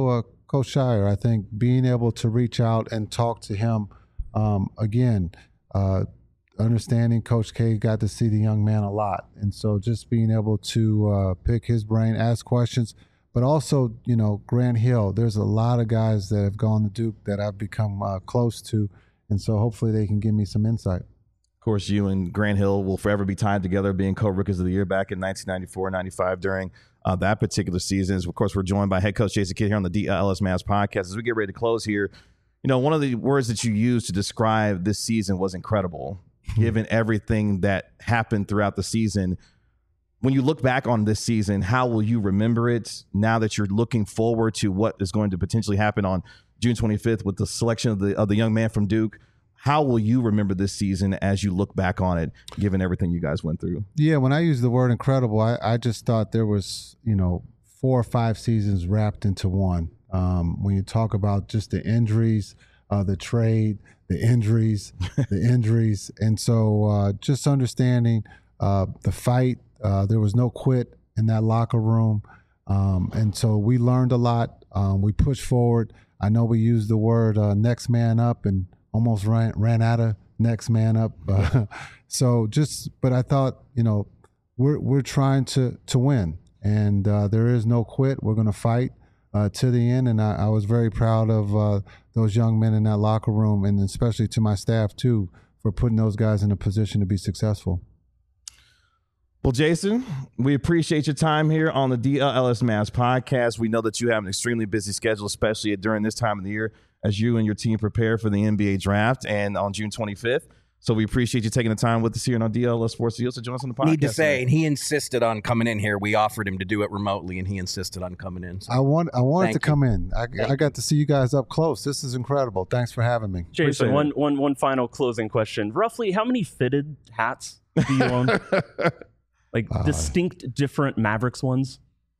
Coach Shire. I think being able to reach out and talk to him um, again, uh, understanding Coach K got to see the young man a lot, and so just being able to uh, pick his brain, ask questions, but also, you know, Grant Hill. There's a lot of guys that have gone to Duke that I've become uh, close to, and so hopefully they can give me some insight. Of course, you and Grant Hill will forever be tied together, being co-rookies of the year back in nineteen ninety-four ninety-five during uh, that particular season. Of course, we're joined by head coach Jason Kidd here on the D L S Mavs podcast. As we get ready to close here, you know, one of the words that you used to describe this season was incredible, given everything that happened throughout the season. When you look back on this season, how will you remember it now that you're looking forward to what is going to potentially happen on June twenty-fifth with the selection of the of the young man from Duke? How will you remember this season as you look back on it, given everything you guys went through? Yeah, when I use the word incredible, I, I just thought there was, you know, four or five seasons wrapped into one. Um, when you talk about just the injuries, uh, the trade, the injuries, the injuries. And so uh, just understanding uh, the fight, uh, there was no quit in that locker room. Um, and so we learned a lot. Um, we pushed forward. I know we used the word uh, next man up and almost ran, ran out of next man up. Uh, so just, but I thought, you know, we're, we're trying to, to win, and uh, there is no quit. We're going to fight uh, to the end. And I, I was very proud of uh, those young men in that locker room, and especially to my staff too, for putting those guys in a position to be successful. Well, Jason, we appreciate your time here on the D L S Mavs podcast. We know that you have an extremely busy schedule, especially during this time of the year, as you and your team prepare for the N B A draft and on June twenty-fifth. So we appreciate you taking the time with us here on D L S Sports Deals to join us on the podcast. Need to say, today. and he insisted on coming in here. We offered him to do it remotely, and he insisted on coming in. So. I want I wanted Thank to you. come in. I, I got to see you guys up close. This is incredible. Thanks for having me. Jason, one, one, one final closing question. Roughly, how many fitted hats do you own? Like Uh, distinct, different Mavericks ones?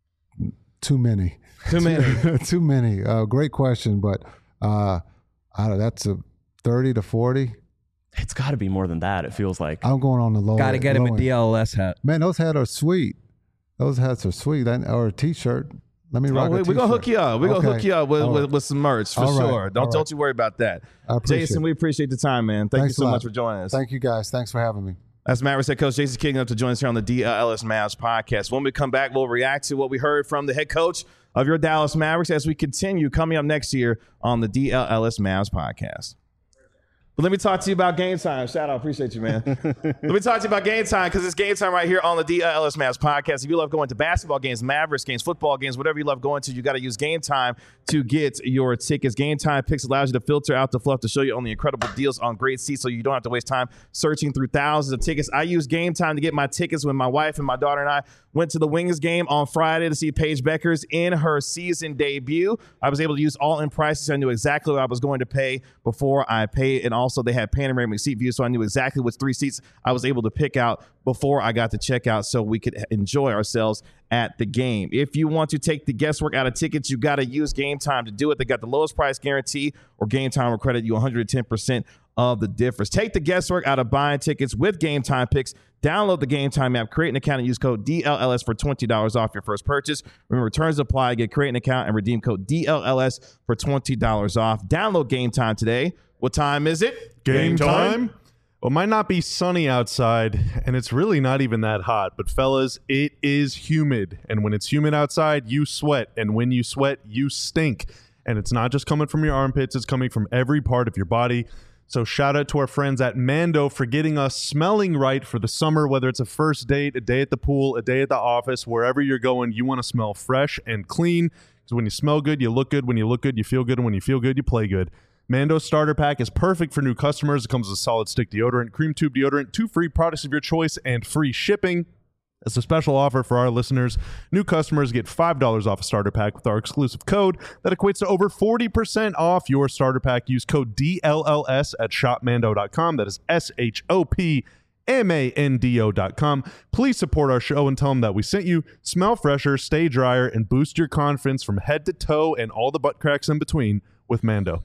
Too many. Too many. Too many. Uh, great question, but uh, I don't, that's a thirty to forty. It's got to be more than that, it feels like. I'm going on the low. Got to get him low a end. D L S hat. Man, those hats are sweet. Those hats are sweet. That, or a T-shirt. Let me rock Oh, a we, T-shirt. we're going to hook you up. We're going to Okay. hook you up with, All with, right. with some merch for All right. sure. Don't, All right. don't you worry about that. I appreciate Jason, it. we appreciate the time, man. Thank Thanks you a so lot. much for joining us. Thank you, guys. Thanks for having me. That's Mavericks head coach Jason King up to join us here on the D L S Mavs podcast. When we come back, we'll react to what we heard from the head coach of your Dallas Mavericks as we continue coming up next year on the D L S Mavs podcast. But let me talk to you about Game Time. Shout out. Appreciate you, man. Let me talk to you about Game Time, because it's Game Time right here on the D L S Mavs podcast. If you love going to basketball games, Mavericks games, football games, whatever you love going to, you got to use Game Time to get your tickets. Game Time Picks allows you to filter out the fluff to show you only incredible deals on great seats, so you don't have to waste time searching through thousands of tickets. I use Game Time to get my tickets when my wife and my daughter and I went to the Wings game on Friday to see Paige Beckers in her season debut. I was able to use all-in prices. I knew exactly what I was going to pay before I paid, and also they had panoramic seat view, so I knew exactly which three seats I was able to pick out before I got to checkout so we could enjoy ourselves at the game. If you want to take the guesswork out of tickets, you got to use Game Time to do it. They got the lowest price guarantee, or Game Time will credit you one hundred ten percent of the difference. Take the guesswork out of buying tickets with Game Time Picks. Download the Game Time app, create an account, and use code D L L S for twenty dollars off your first purchase. Remember, returns apply. Get create an account and redeem code D L L S for twenty dollars off. Download Game Time today. What time is it? Game time? Well, it might not be sunny outside, and it's really not even that hot. But, fellas, it is humid. And when it's humid outside, you sweat. And when you sweat, you stink. And it's not just coming from your armpits. It's coming from every part of your body. So shout out to our friends at Mando for getting us smelling right for the summer, whether it's a first date, a day at the pool, a day at the office, wherever you're going, you want to smell fresh and clean. Because when you smell good, you look good. When you look good, you feel good. And when you feel good, you play good. Mando's starter pack is perfect for new customers. It comes with a solid stick deodorant, cream tube deodorant, two free products of your choice, and free shipping. As a special offer for our listeners, new customers get five dollars off a starter pack with our exclusive code that equates to over forty percent off your starter pack. Use code D L L S at shop mando dot com. That is S H O P M A N D O dot com. Please support our show and tell them that we sent you. Smell fresher, stay drier, and boost your confidence from head to toe and all the butt cracks in between with Mando.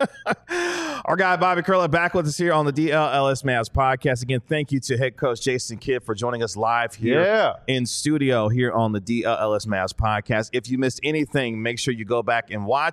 Our guy Bobby Curler back with us here on the D L L S Mavs podcast. Again, thank you to head coach Jason Kidd for joining us live here Yeah. in studio here on the D L L S Mavs podcast. If you missed anything, make sure you go back and watch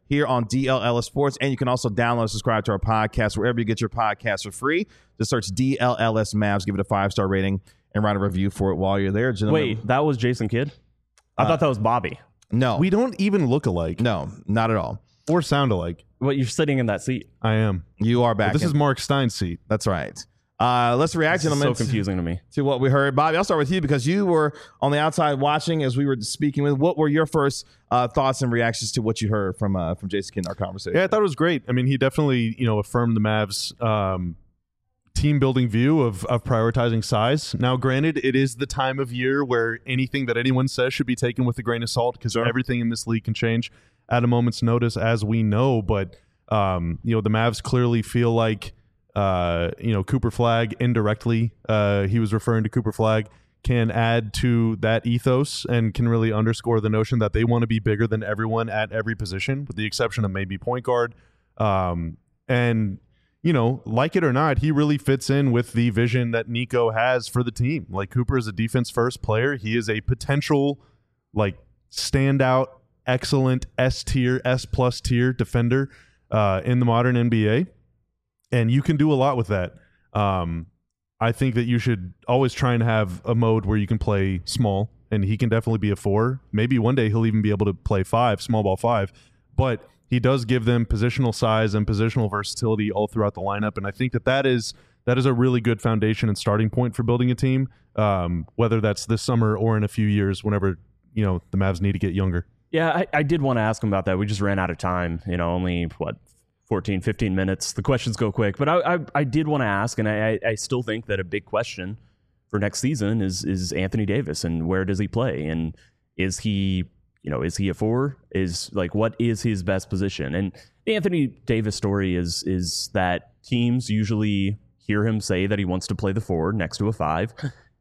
here on D L L S Sports. And you can also download and subscribe to our podcast wherever you get your podcasts for free. Just search D L L S Mavs, give it a five-star rating, and write a review for it while you're there. Gentlemen. Wait, that was Jason Kidd? I Uh, thought that was Bobby. No. We don't even look alike no, not at all. or sound alike. What, you're sitting in that seat? I am. You are back. This in. is Mark Stein's seat. That's right. Uh, let's react, This is gentlemen, so confusing to me. to what we heard. Bobby, I'll start with you because you were on the outside watching as we were speaking with. What were your first uh, thoughts and reactions to what you heard from uh, from Jason Kidd in our conversation? Yeah, I thought it was great. I mean, he definitely, you know, affirmed the Mavs' um, team building view of of prioritizing size. Now, granted, it is the time of year where anything that anyone says should be taken with a grain of salt because everything in this league can change at a moment's notice, as we know. But um, you know, the Mavs clearly feel like uh, you know Cooper Flagg indirectly. Uh, he was referring to Cooper Flagg. Can add to that ethos and can really underscore the notion that they want to be bigger than everyone at every position, with the exception of maybe point guard. Um, and, you know, like it or not, he really fits in with the vision that Nico has for the team. Like, Cooper is a defense-first player. He is a potential, like, standout, excellent S-tier, S-plus tier defender uh, in the modern N B A. And you can do a lot with that. Um I think that you should always try and have a mode where you can play small, and he can definitely be a four. Maybe one day he'll even be able to play five, small ball five. But he does give them positional size and positional versatility all throughout the lineup, and I think that that is that is a really good foundation and starting point for building a team, um, whether that's this summer or in a few years, whenever you know the Mavs need to get younger. Yeah, I, I did want to ask him about that. We just ran out of time. You know, only, what, fourteen, fifteen minutes. The questions go quick. But I I, I did want to ask, and I, I still think that a big question for next season is is Anthony Davis, and where does he play? And is he, you know, is he a four? Is, like, what is his best position? And the Anthony Davis story is is that teams usually hear him say that he wants to play the four next to a five.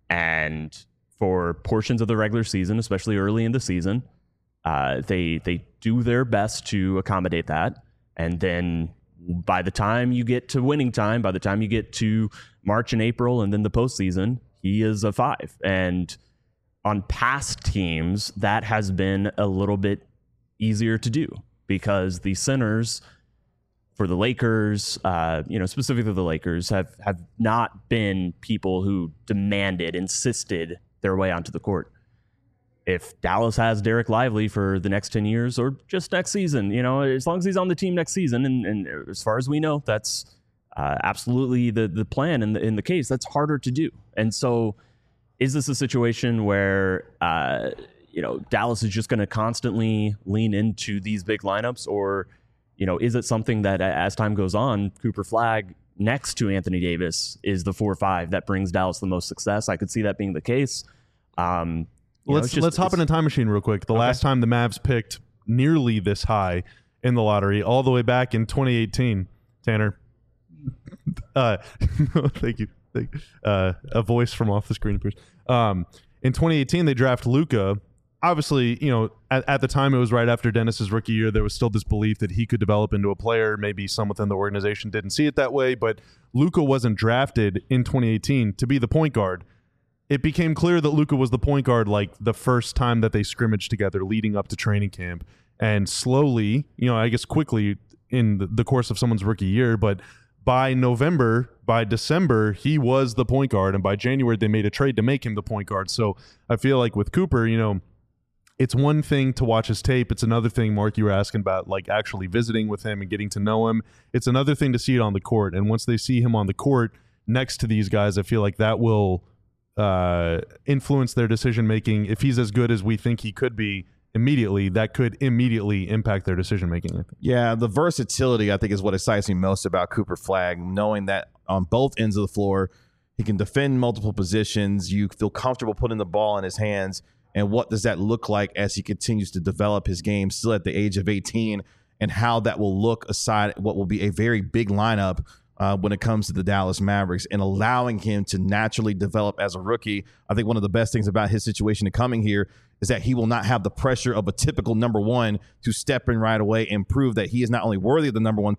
And for portions of the regular season, especially early in the season, uh, they they do their best to accommodate that. And then by the time you get to winning time, by the time you get to March and April and then the postseason, he is a five. And on past teams, that has been a little bit easier to do because the centers for the Lakers, uh, you know, specifically the Lakers, have, have not been people who demanded, insisted their way onto the court. If Dallas has Derek Lively for the next ten years or just next season, you know, as long as he's on the team next season, and, and as far as we know, that's uh, absolutely the the plan in the, in the case, that's harder to do. And so is this a situation where, uh, you know, Dallas is just going to constantly lean into these big lineups, or, you know, is it something that as time goes on, Cooper Flagg next to Anthony Davis is the four five that brings Dallas the most success? I could see that being the case. Um, You let's know, just, let's hop in a time machine real quick. The Okay. last time the Mavs picked nearly this high in the lottery, all the way back in twenty eighteen, Tanner. Uh, thank you. Thank you. Uh, a voice from off the screen appears. Um, in twenty eighteen, they draft Luka. Obviously, you know, at, at the time it was right after Dennis's rookie year. There was still this belief that he could develop into a player. Maybe some within the organization didn't see it that way, but Luka wasn't drafted in twenty eighteen to be the point guard. It became clear that Luka was the point guard like the first time that they scrimmaged together leading up to training camp. And slowly, you know, I guess quickly in the, the course of someone's rookie year, but by November, by December, he was the point guard. And by January, they made a trade to make him the point guard. So I feel like with Cooper, you know, it's one thing to watch his tape. It's another thing, Mark, you were asking about, like actually visiting with him and getting to know him. It's another thing to see it on the court. And once they see him on the court next to these guys, I feel like that will uh, influence their decision making. If he's as good as we think he could be immediately, that could immediately impact their decision making, I think. Yeah, the versatility, I think, is what excites me most about Cooper Flagg, knowing that on both ends of the floor, he can defend multiple positions. You feel comfortable putting the ball in his hands. And what does that look like as he continues to develop his game still at the age of eighteen, and how that will look aside what will be a very big lineup uh, when it comes to the Dallas Mavericks, and allowing him to naturally develop as a rookie. I think one of the best things about his situation to coming here is that he will not have the pressure of a typical number one to step in right away and prove that he is not only worthy of the number one pick,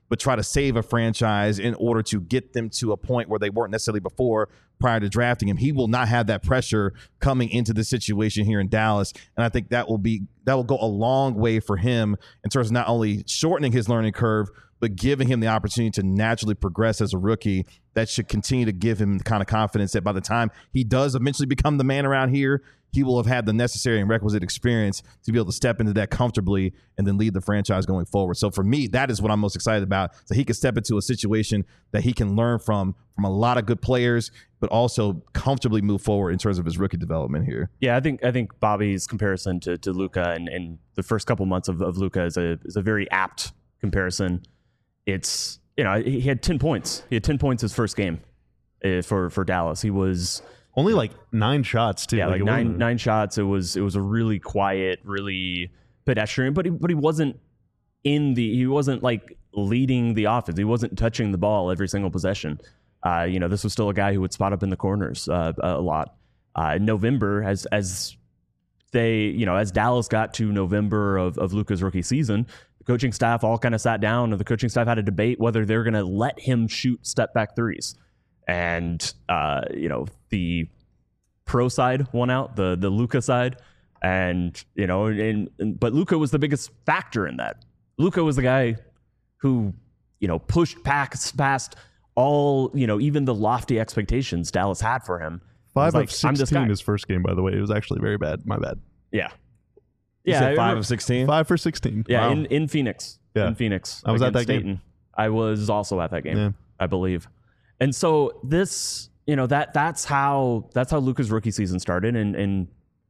but try to save a franchise in order to get them to a point where they weren't necessarily before prior to drafting him. He will not have that pressure coming into the situation here in Dallas. And I think that will be that will go a long way for him in terms of not only shortening his learning curve, but giving him the opportunity to naturally progress as a rookie. That should continue to give him the kind of confidence that by the time he does eventually become the man around here, he will have had the necessary and requisite experience to be able to step into that comfortably and then lead the franchise going forward. So for me, that is what I'm most excited about. So he can step into a situation that he can learn from from a lot of good players, but also comfortably move forward in terms of his rookie development here. Yeah, I think I think Bobby's comparison to to Luka and, and the first couple months of, of Luka is a is a very apt comparison. It's, you know, he had ten points. He had ten points his first game uh, for for Dallas. He was only like nine shots too. Yeah, like, like nine wasn't... nine shots. It was it was a really quiet, really pedestrian. But he but he wasn't in the he wasn't like leading the offense. He wasn't touching the ball every single possession. Uh, you know, this was still a guy who would spot up in the corners uh, a lot. Uh, in November, as as they you know as Dallas got to November of of Luka's rookie season, the coaching staff all kind of sat down, and the coaching staff had a debate whether they're going to let him shoot step back threes. And, uh, you know, the pro side won out, the the Luka side. And, you know, and, and but Luka was the biggest factor in that. Luka was the guy who, you know, pushed past, past all, you know, even the lofty expectations Dallas had for him. Five like, of sixteen his first game, by the way. It was actually very bad. My bad. Yeah. You yeah. said five of sixteen? Five for sixteen. Yeah, Wow. in, in Phoenix. Yeah. In Phoenix. I was at against that game. Dayton. I was also at that game, Yeah. I believe. And so this, you know, that that's how that's how Luka's rookie season started. And and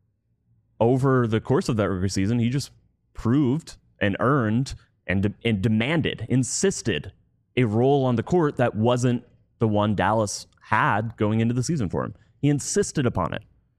over the course of that rookie season, he just proved and earned and de- and demanded, insisted a role on the court that wasn't the one Dallas had going into the season for him. He insisted upon it.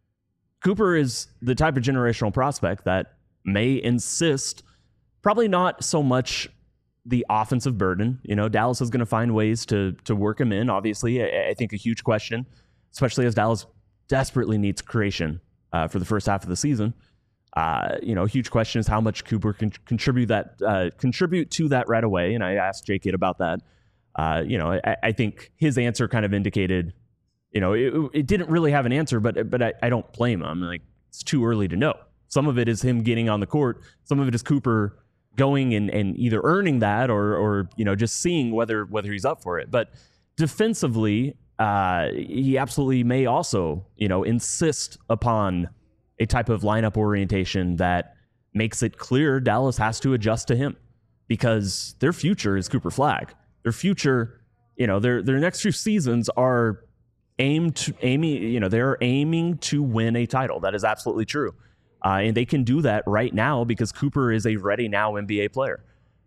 Cooper is the type of generational prospect that may insist, probably not so much the offensive burden. You know, Dallas is going to find ways to to work him in. Obviously, I, I think a huge question, especially as Dallas desperately needs creation uh, for the first half of the season. Uh, you know, a huge question is how much Cooper can contribute that uh, contribute to that right away. And I asked J K about that. Uh, you know, I, I think his answer kind of indicated, you know, it, it didn't really have an answer, but but I, I don't blame him. Like, it's too early to know. Some of it is him getting on the court. Some of it is Cooper going and, and either earning that or or you know just seeing whether whether he's up for it. But defensively, uh, he absolutely may also you know insist upon a type of lineup orientation that makes it clear Dallas has to adjust to him, because their future is Cooper Flagg. Their future, you know, their their next few seasons are aimed to aiming, you know, they're aiming to win a title. That is absolutely true. Uh, and they can do that right now because Cooper is a ready now N B A player.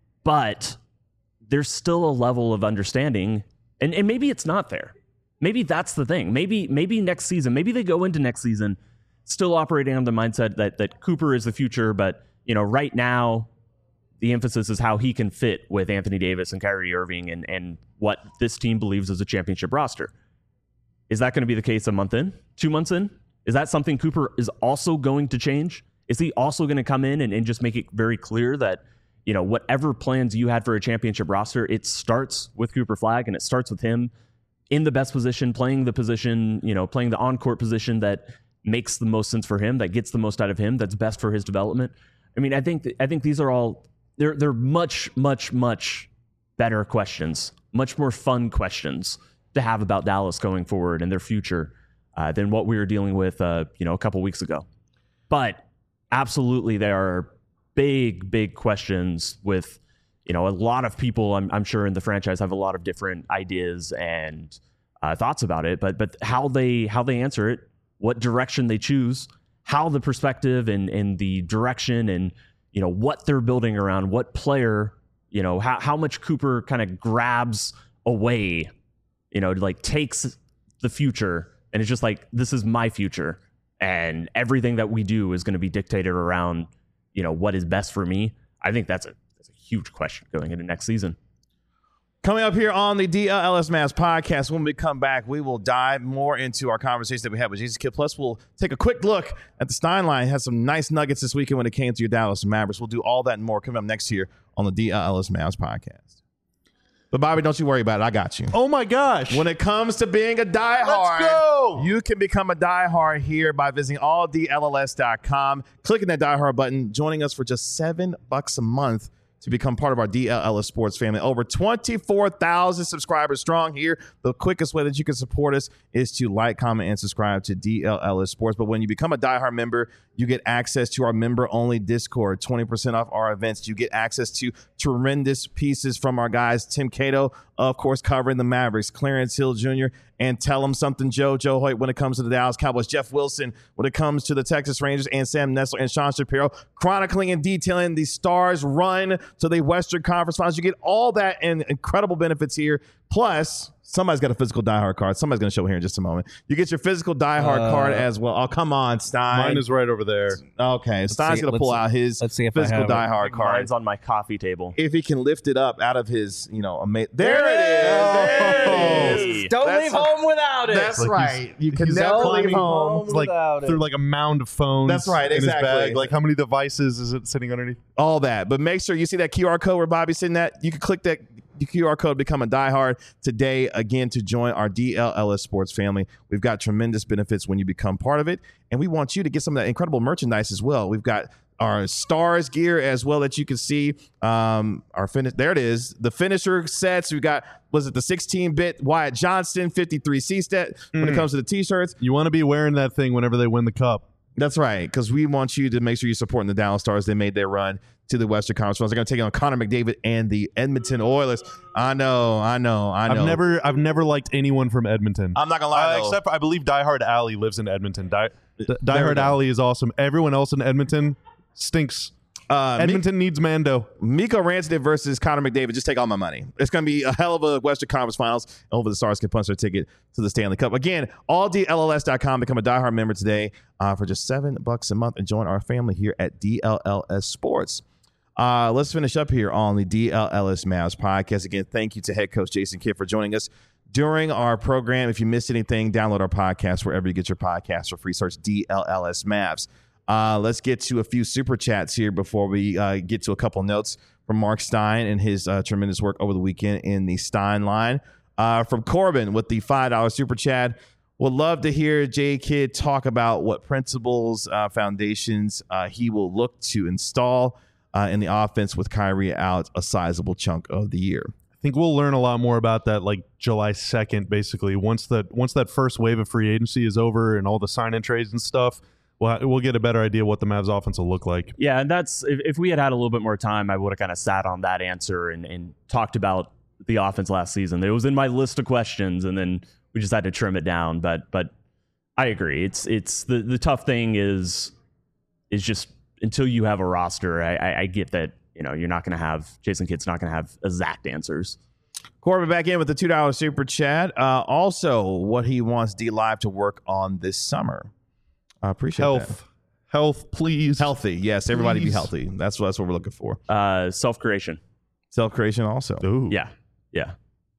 But there's still a level of understanding, and, and maybe it's not there. Maybe that's the thing. Maybe maybe next season, maybe they go into next season still operating on the mindset that that Cooper is the future, but you know, right now the emphasis is how he can fit with Anthony Davis and Kyrie Irving and and what this team believes is a championship roster. Is that going to be the case a month in, two months in? Is that something Cooper is also going to change? Is he also going to come in and, and just make it very clear that, you know, whatever plans you had for a championship roster, it starts with Cooper Flagg and it starts with him in the best position, playing the position, you know, playing the on-court position that makes the most sense for him, that gets the most out of him, that's best for his development. I mean, I think th- I think these are all they're they're much much much better questions, much more fun questions to have about Dallas going forward and their future uh, than what we were dealing with, uh, you know, a couple weeks ago. But absolutely, there are big, big questions with, you know, a lot of people, I'm, I'm sure in the franchise have a lot of different ideas and uh, thoughts about it. But but how they how they answer it, what direction they choose, how the perspective and and the direction and you know what they're building around, what player, you know, how how much Cooper kind of grabs away. You know, like takes the future and it's just like, this is my future and everything that we do is going to be dictated around, you know, what is best for me. I think that's a, that's a huge question going into next season. Coming up here on the D L S Mavs podcast, when we come back, we will dive more into our conversation that we had with Jesus Kid. Plus, we'll take a quick look at the Stein line. It has some nice nuggets this weekend when it came to your Dallas Mavericks. We'll do all that and more coming up next here on the D L S Mavs podcast. But Bobby, don't you worry about it. I got you. Oh my gosh. When it comes to being a diehard, Let's go. You can become a diehard here by visiting all D L L S dot com, clicking that diehard button, joining us for just seven bucks a month to become part of our D L L S Sports family. Over twenty-four thousand subscribers strong here. The quickest way that you can support us is to like, comment, and subscribe to D L L S Sports. But when you become a diehard member, you get access to our member-only Discord, twenty percent off our events. You get access to tremendous pieces from our guys, Tim Cato, of course, covering the Mavericks, Clarence Hill Junior, and Tell Him Something Joe, Joe Hoyt when it comes to the Dallas Cowboys, Jeff Wilson when it comes to the Texas Rangers, and Sam Nessler and Sean Shapiro, chronicling and detailing the Stars' run to the Western Conference Finals. You get all that and incredible benefits here. Plus, somebody's got a physical diehard card. Somebody's going to show here in just a moment. You get your physical diehard Uh, card as well. Oh, come on, Stein. Mine is right over there. Okay, Stein's see- going to pull let's- out his let's see if I physical have it. diehard card. Mine's on my coffee table. If he can lift it up out of his, you know, ama- there it is. There it is. Don't That's leave a- home without it. That's Like right. You can he's never leave climbing home. It's like without it. through like a mound of phones. That's right, in exactly. his bag. Like how many devices is it sitting underneath? All that. But make sure you see that Q R code where Bobby's sitting at. You can click that Q R code, become a diehard today, again, to join our D L L S Sports family. We've got tremendous benefits when you become part of it. And we want you to get some of that incredible merchandise as well. We've got our Stars gear as well that you can see. Um, our finish, there it is. The finisher sets. We got, was it the sixteen bit Wyatt Johnston fifty-three C set when it comes to the t-shirts. You want to be wearing that thing whenever they win the cup. That's right, because we want you to make sure you're supporting the Dallas Stars. They made their run to the Western Conference Finals. They're going to take on Connor McDavid and the Edmonton Oilers. I know, I know, I know. I've never, I've never liked anyone from Edmonton. I'm not gonna lie, Uh, though. except for, I believe Die Hard Alley lives in Edmonton. Die, D- Die There we Hard go. Alley is awesome. Everyone else in Edmonton stinks. uh, Edmonton needs Mando. Miko Rantanen versus Connor McDavid. Just take all my money. It's going to be a hell of a Western Conference Finals. And hopefully the Stars can punch their ticket to the Stanley Cup. Again, all D L L S dot com. Become a diehard member today uh, for just seven bucks a month and join our family here at D L L S Sports. Uh, let's finish up here on the D L L S Mavs podcast. Again, thank you to head coach Jason Kidd for joining us during our program. If you missed anything, download our podcast wherever you get your podcasts for free. Search D L L S Mavs. Uh, let's get to a few super chats here before we uh, get to a couple notes from Mark Stein and his uh, tremendous work over the weekend in the Stein line. Uh, from Corbin with the five dollar super chat. Would love to hear J Kidd talk about what principles, uh, foundations uh, he will look to install uh, in the offense with Kyrie out a sizable chunk of the year. I think we'll learn a lot more about that like July second, basically. Once that once that first wave of free agency is over and all the sign-in trades and stuff, we'll, we'll get a better idea what the Mavs offense will look like. Yeah, and that's if, if we had had a little bit more time, I would have kind of sat on that answer and, and talked about the offense last season. It was in my list of questions, and then we just had to trim it down. But but I agree. It's it's the, the tough thing is is just until you have a roster. I, I, I get that you know you're not going to have Jason Kidd's not going to have exact answers. Corbin back in with the two dollar super chat. Uh, also, what he wants D Live to work on this summer. I appreciate Health. that. Health, please. Healthy, yes. Everybody be Please. healthy. That's what that's what we're looking for. Uh, self creation. Self creation also. Ooh. Yeah, yeah,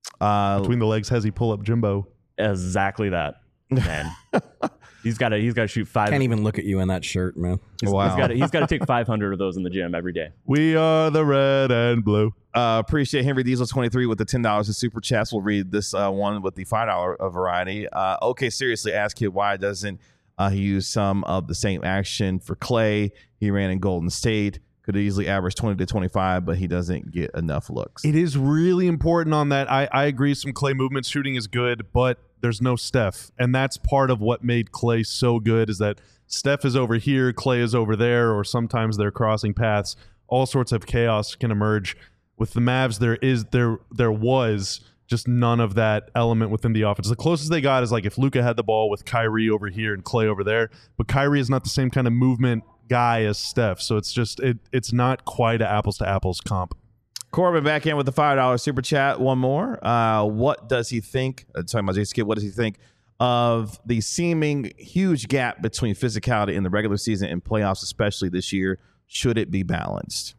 Uh, Between the legs, has he pull up Jimbo? exactly that. Man, he's got to he's got to shoot five. Can't even look at you in that shirt, man. wow. He's got he's got to take five hundred of those in the gym every day. We are the red and blue. Uh, appreciate Henry Diesel twenty-three with the ten dollars in super chats. We'll read this uh, one with the five dollar variety. Uh, okay, seriously, ask Kidd why doesn't uh, he use some of the same action for Clay? He ran in Golden State. Could easily average twenty to twenty-five, but he doesn't get enough looks. It is really important on that. I, I agree some Clay movement shooting is good, but there's no Steph. And that's part of what made Clay so good is that Steph is over here, Clay is over there, or sometimes they're crossing paths. All sorts of chaos can emerge. With the Mavs, there is there there was just none of that element within the offense. The closest they got is like if Luka had the ball with Kyrie over here and Clay over there, but Kyrie is not the same kind of movement guy as Steph. So it's just it it's not quite an apples to apples comp. Corbin back in with the five dollar super chat. One more. Uh, what does he think? Uh, talking about Jason Kidd, what does he think of the seeming huge gap between physicality in the regular season and playoffs, especially this year? Should it be balanced?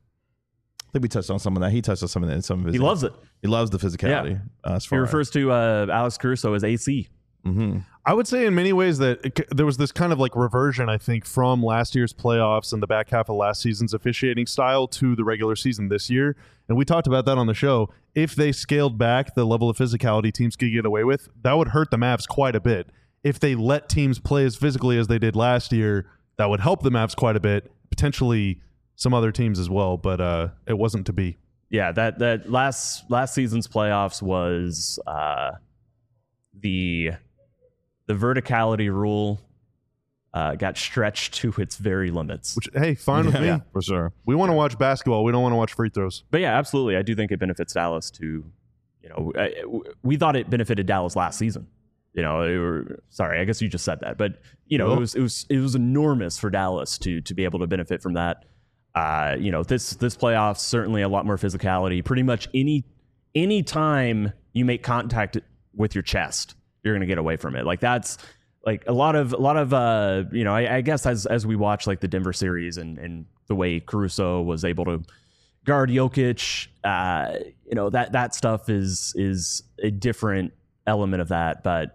I think we touched on some of that. He touched on some of that in some of his. He loves it. He loves the physicality. Yeah. Uh, as He far refers to uh, Alex Caruso as A C. Mm-hmm. I would say in many ways that it, there was this kind of like reversion, I think, from last year's playoffs and the back half of last season's officiating style to the regular season this year. And we talked about that on the show. If they scaled back the level of physicality teams could get away with, that would hurt the Mavs quite a bit. If they let teams play as physically as they did last year, that would help the Mavs quite a bit, potentially some other teams as well, but uh, it wasn't to be. Yeah, that that last last season's playoffs was uh, the the verticality rule uh, got stretched to its very limits. Which, hey, fine with me. Yeah, for sure. We want to watch basketball. We don't want to watch free throws. But yeah, absolutely. I do think it benefits Dallas to, you know, I, we thought it benefited Dallas last season. You know, it were, sorry, I guess you just said that, but you know, Cool. it was it was it was enormous for Dallas to to be able to benefit from that. Uh, you know, this this playoffs certainly a lot more physicality. Pretty much any any time you make contact with your chest, you're gonna get away from it. Like that's like a lot of a lot of uh, you know, I, I guess as as we watch like the Denver series and and the way Caruso was able to guard Jokic, uh, you know, that that stuff is is a different element of that, but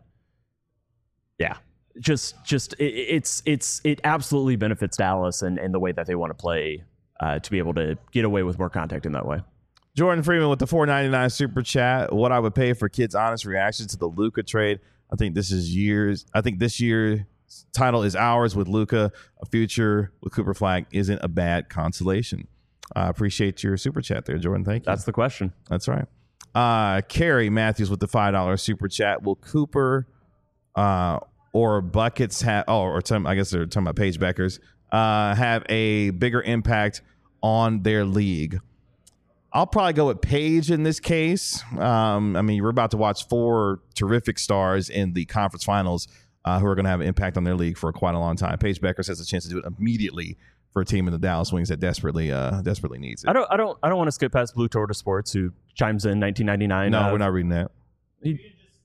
yeah. Just, just it, it's, it's, it absolutely benefits Dallas and, and the way that they want to play uh, to be able to get away with more contact in that way. Jordan Freeman with the four ninety-nine super chat. What I would pay for kids' honest reactions to the Luka trade. I think this is years. I think this year's title is ours with Luka. A future with Cooper Flag isn't a bad consolation. I appreciate your super chat there, Jordan. Thank you. That's the question. That's right. Uh, Carrie Matthews with the five dollar super chat. Will Cooper uh, or Buckets have, oh, or some, I guess they're talking about Paige Beckers, uh, have a bigger impact on their league? I'll probably go with Paige in this case. Um, I mean, we're about to watch four terrific stars in the conference finals uh, who are going to have an impact on their league for quite a long time. Paige Beckers has a chance to do it immediately for a team in the Dallas Wings that desperately, uh, desperately needs it. I don't, I don't, I don't want to skip past Blue Tortoise Sports, who chimes in nineteen ninety-nine. No, uh, we're not reading that. He,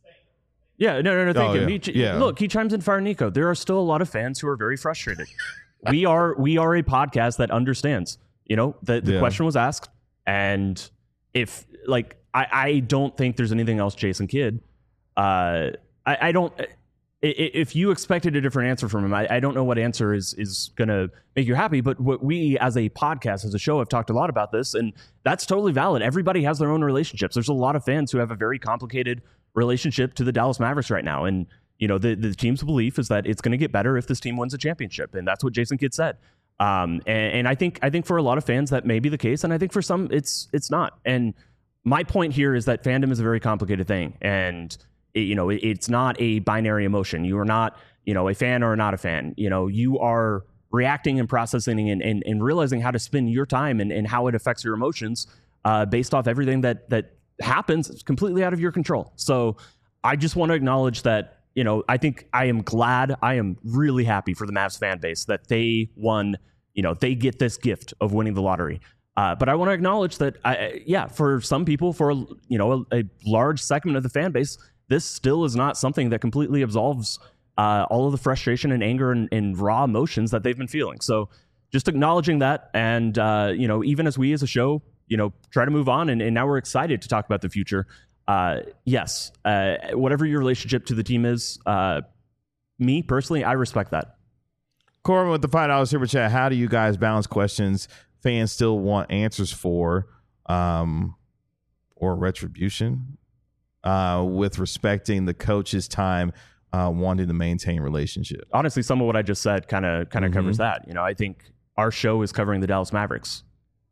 yeah, no, no, no. Thank Oh, him. yeah. He, Yeah. Look, he chimes in Fire Nico. There are still a lot of fans who are very frustrated. we are, we are a podcast that understands. You know, the, the Yeah. question was asked, and if like I, I don't think there's anything else, Jason Kidd. Uh, I, I don't. I- If you expected a different answer from him, I, I don't know what answer is is going to make you happy. But what we, as a podcast, as a show, have talked a lot about this, and that's totally valid. Everybody has their own relationships. There's a lot of fans who have a very complicated relationship to the Dallas Mavericks right now, and you know the the team's belief is that it's going to get better if this team wins a championship, and that's what Jason Kidd said. Um, and, and I think I think for a lot of fans that may be the case, and I think for some it's it's not. And my point here is that fandom is a very complicated thing, and it, you know it, it's not a binary emotion. You are not you know a fan or not a fan. You know you are reacting and processing and, and, and realizing how to spend your time and, and how it affects your emotions uh, based off everything that that happens. It's completely out of your control. So I just want to acknowledge that. You know, I think I am glad, I am really happy for the Mavs fan base that they won, you know, they get this gift of winning the lottery. Uh, but I want to acknowledge that, I, yeah, for some people, for, you know, a, a large segment of the fan base, this still is not something that completely absolves uh, all of the frustration and anger and, and raw emotions that they've been feeling. So just acknowledging that. And, uh, you know, even as we as a show, you know, try to move on and, and now we're excited to talk about the future. Uh, yes, uh, whatever your relationship to the team is, uh, me personally, I respect that. Corbin with the five dollars super chat. How do you guys balance questions fans still want answers for, um, or retribution, uh, with respecting the coach's time, uh, wanting to maintain relationship? Honestly, some of what I just said kind of kind of Mhm. covers that. You know, I think our show is covering the Dallas Mavericks,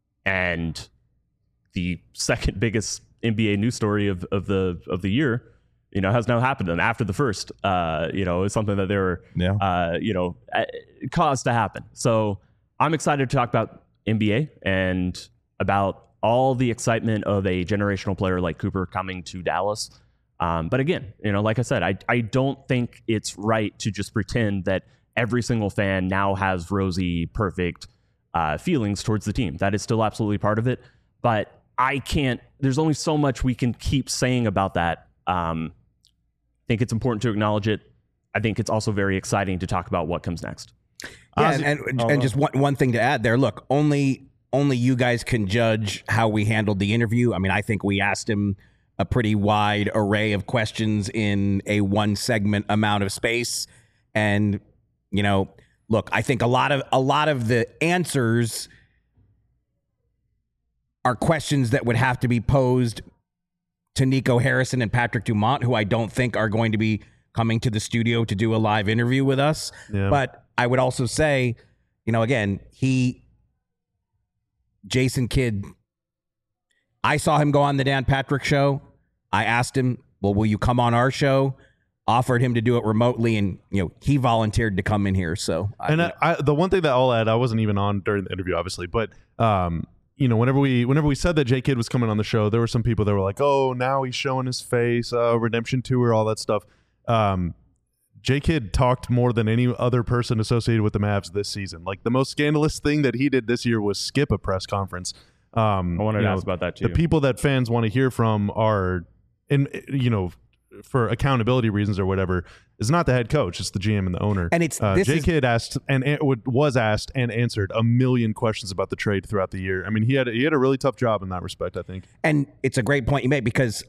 and the second biggest N B A news story of, of the of the year, you know, has now happened to them after the first. Uh, you know, it's something that they were, Yeah. uh, you know, uh, caused to happen. So I'm excited to talk about N B A and about all the excitement of a generational player like Cooper coming to Dallas. Um, but again, you know, like I said, I I don't think it's right to just pretend that every single fan now has rosy, perfect uh, feelings towards the team. That is still absolutely part of it, but I can't, there's only so much we can keep saying about that. Um, I think it's important to acknowledge it. I think it's also very exciting to talk about what comes next. Yeah, Ozzy- and, and, oh, and go. just one, one thing to add there. Look, only only you guys can judge how we handled the interview. I mean, I think we asked him a pretty wide array of questions in a one segment amount of space. And, you know, look, I think a lot of a lot of the answers are questions that would have to be posed to Nico Harrison and Patrick Dumont, who I don't think are going to be coming to the studio to do a live interview with us. Yeah. But I would also say, you know, again, he, Jason Kidd, I saw him go on the Dan Patrick show. I asked him, well, will you come on our show? Offered him to do it remotely, and you know he volunteered to come in here. So, I, and you know. I, I, the one thing that I'll add, I wasn't even on during the interview, obviously, but um, you know, whenever we whenever we said that J Kidd was coming on the show, there were some people that were like, "Oh, now he's showing his face, uh, redemption tour, all that stuff." Um, J Kidd talked more than any other person associated with the Mavs this season. Like the most scandalous thing that he did this year was skip a press conference. Um, I wanted you to know, ask about that too. The people that fans want to hear from are, in you know, for accountability reasons or whatever, is not the head coach. It's the G M and the owner. And it's uh, this J is- Kidd asked and an- was asked and answered a million questions about the trade throughout the year. I mean, he had he had a really tough job in that respect, I think. And it's a great point you made, because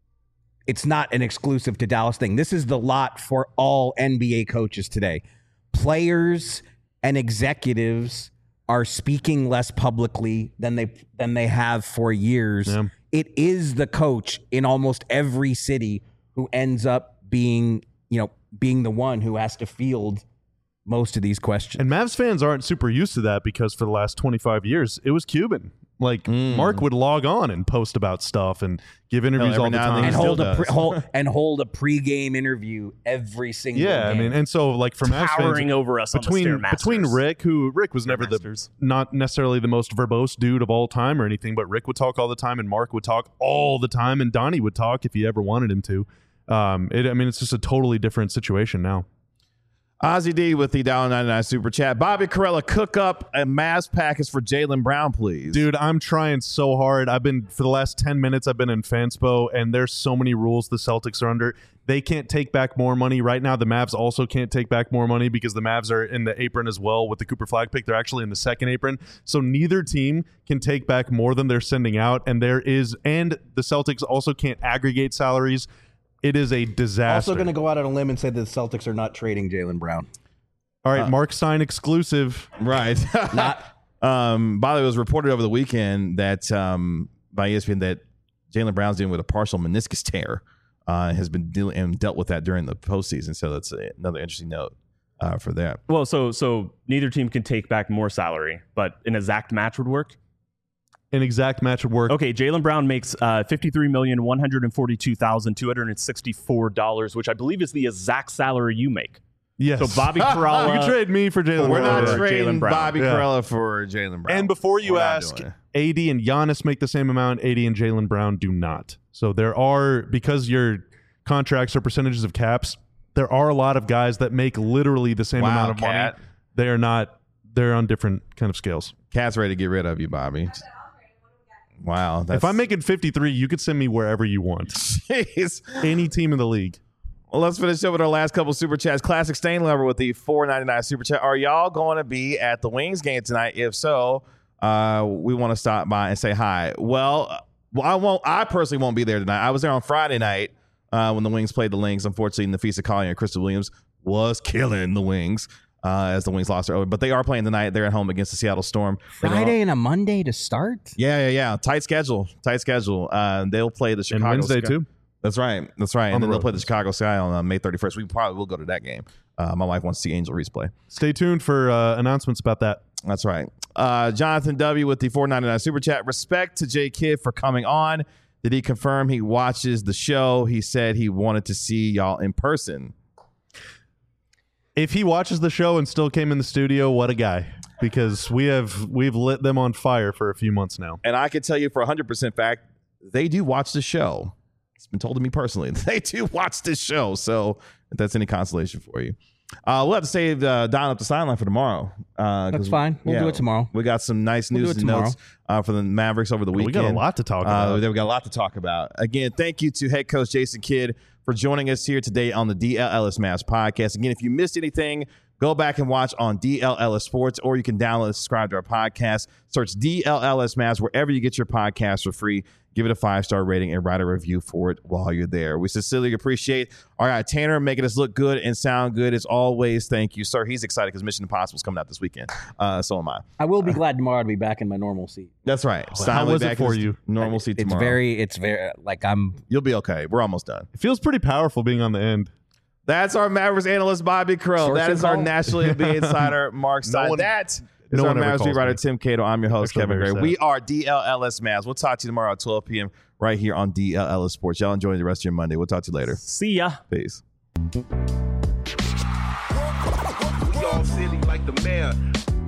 it's not an exclusive to Dallas thing. This is the lot for all N B A coaches today. Players and executives are speaking less publicly than they than they have for years. Yeah. It is the coach in almost every city who ends up being, you know, being the one who has to field most of these questions. And Mavs fans aren't super used to that because for the last twenty-five years, it was Cuban. Like Mm. Mark would log on and post about stuff and give interviews every all the now and then time. he and still hold a does. pre, hold, and hold a pregame interview every single Yeah, I game. mean, and so like for Mavs Towering fans, over us between on the Stairmasters. between Rick, who Rick was never the Stairmasters. not necessarily the most verbose dude of all time or anything, but Rick would talk all the time, and Mark would talk all the time, and Donnie would talk if he ever wanted him to. Um, it, I mean, it's just a totally different situation now. Ozzy D with the one dollar ninety-nine super chat. Bobby Carella, cook up a Mavs package for Jaylen Brown, please. Dude, I'm trying so hard. I've been, for the last ten minutes, I've been in Fanspo, and there's so many rules the Celtics are under. They can't take back more money. Right now, the Mavs also can't take back more money because the Mavs are in the apron as well with the Cooper Flag pick. They're actually in the second apron. So neither team can take back more than they're sending out. And there is, and the Celtics also can't aggregate salaries. It is a disaster. Also going to go out on a limb and say that the Celtics are not trading Jaylen Brown. All right, Uh, Mark Stein exclusive. Right. Not- um, by the way, it was reported over the weekend that um, by E S P N that Jaylen Brown's dealing with a partial meniscus tear. Uh, has been dealing and dealt with that during the postseason. So that's a, another interesting note uh, for that. Well, so so neither team can take back more salary, but an exact match would work. An exact match would work. Okay, Jaylen Brown makes uh, fifty-three million one hundred forty-two thousand two hundred sixty-four dollars, which I believe is the exact salary you make. Yes. So Bobby Carella, you can trade me for Jaylen We're Brown. not Or trading Jaylen Brown. Bobby Yeah. Carella for Jaylen Brown. And before you We're not ask, doing it. A D and Giannis make the same amount. A D and Jaylen Brown do not. So there are, because your contracts are percentages of caps, there are a lot of guys that make literally the same Wow, amount of Cat. money. They are not, they're on different kind of scales. Cat's ready to get rid of you, Bobby. Wow. That's, If I'm making fifty-three, you could send me wherever you want. Jeez. Any team in the league. Well, let's finish up with our last couple super chats. Classic Stain Lover with the four ninety-nine super chat. Are y'all going to be at the Wings game tonight? If so, uh, we want to stop by and say hi. Well, uh, well, I won't. I personally won't be there tonight. I was there on Friday night uh, when the Wings played the Lynx. Unfortunately, Nafisa Collier and Crystal Williams was killing the Wings uh, as the Wings lost their own. But they are playing tonight. They're at home against the Seattle Storm. They're Friday on- and a Monday to start? Yeah, yeah, yeah. Tight schedule. Tight schedule. Uh, they'll play the Chicago. And Wednesday, Sky- too. That's right. That's right. On And the then they'll road. play the Chicago Sky on uh, May thirty-first. We probably will go to that game. Uh, my wife wants to see Angel Reese play. Stay tuned for uh, announcements about that. That's right. Uh, Jonathan W. with the four ninety-nine super chat. Respect to J Kidd for coming on. Did he confirm he watches the show? He said he wanted to see y'all in person. If he watches the show and still came in the studio, what a guy. Because we have we've lit them on fire for a few months now. And I can tell you for one hundred percent fact, they do watch the show. It's been told to me personally. They do watch this show. So if that's any consolation for you. Uh, we'll have to save uh, Don up the sideline for tomorrow. Uh, 'cause That's fine. We'll yeah, do it tomorrow. We got some nice We'll do news it and tomorrow. notes uh, for the Mavericks over the We weekend. got a lot to talk Uh, about. we got a lot to talk about. Again, thank you to head coach Jason Kidd for joining us here today on the D L Ellis Mavs podcast. Again, if you missed anything Go back and watch on D L L S Sports, or you can download and subscribe to our podcast. Search D L L S Mavs wherever you get your podcast for free. Give it a five-star rating and write a review for it while you're there. We sincerely appreciate all right, Tanner making us look good and sound good as always. Thank you, sir. He's excited because Mission Impossible is coming out this weekend. Uh, so am I. I will be glad tomorrow to be back in my normal seat. That's right. How was it for you? Normal seat It's tomorrow. very, it's very, like I'm, You'll be okay. We're almost done. It feels pretty powerful being on the end. That's our Mavericks analyst, Bobby Crow. Source That is our info? National N B A insider, Mark Stein. No one- that is no our one ever Mavericks beat calls writer, me. Tim Cato. I'm your host, Actually, Kevin very Gray. sad. We are D L L S Mavs. We'll talk to you tomorrow at twelve p.m. right here on D L L S Sports. Y'all enjoy the rest of your Monday. We'll talk to you later. See ya. Peace. We all silly like the mayor.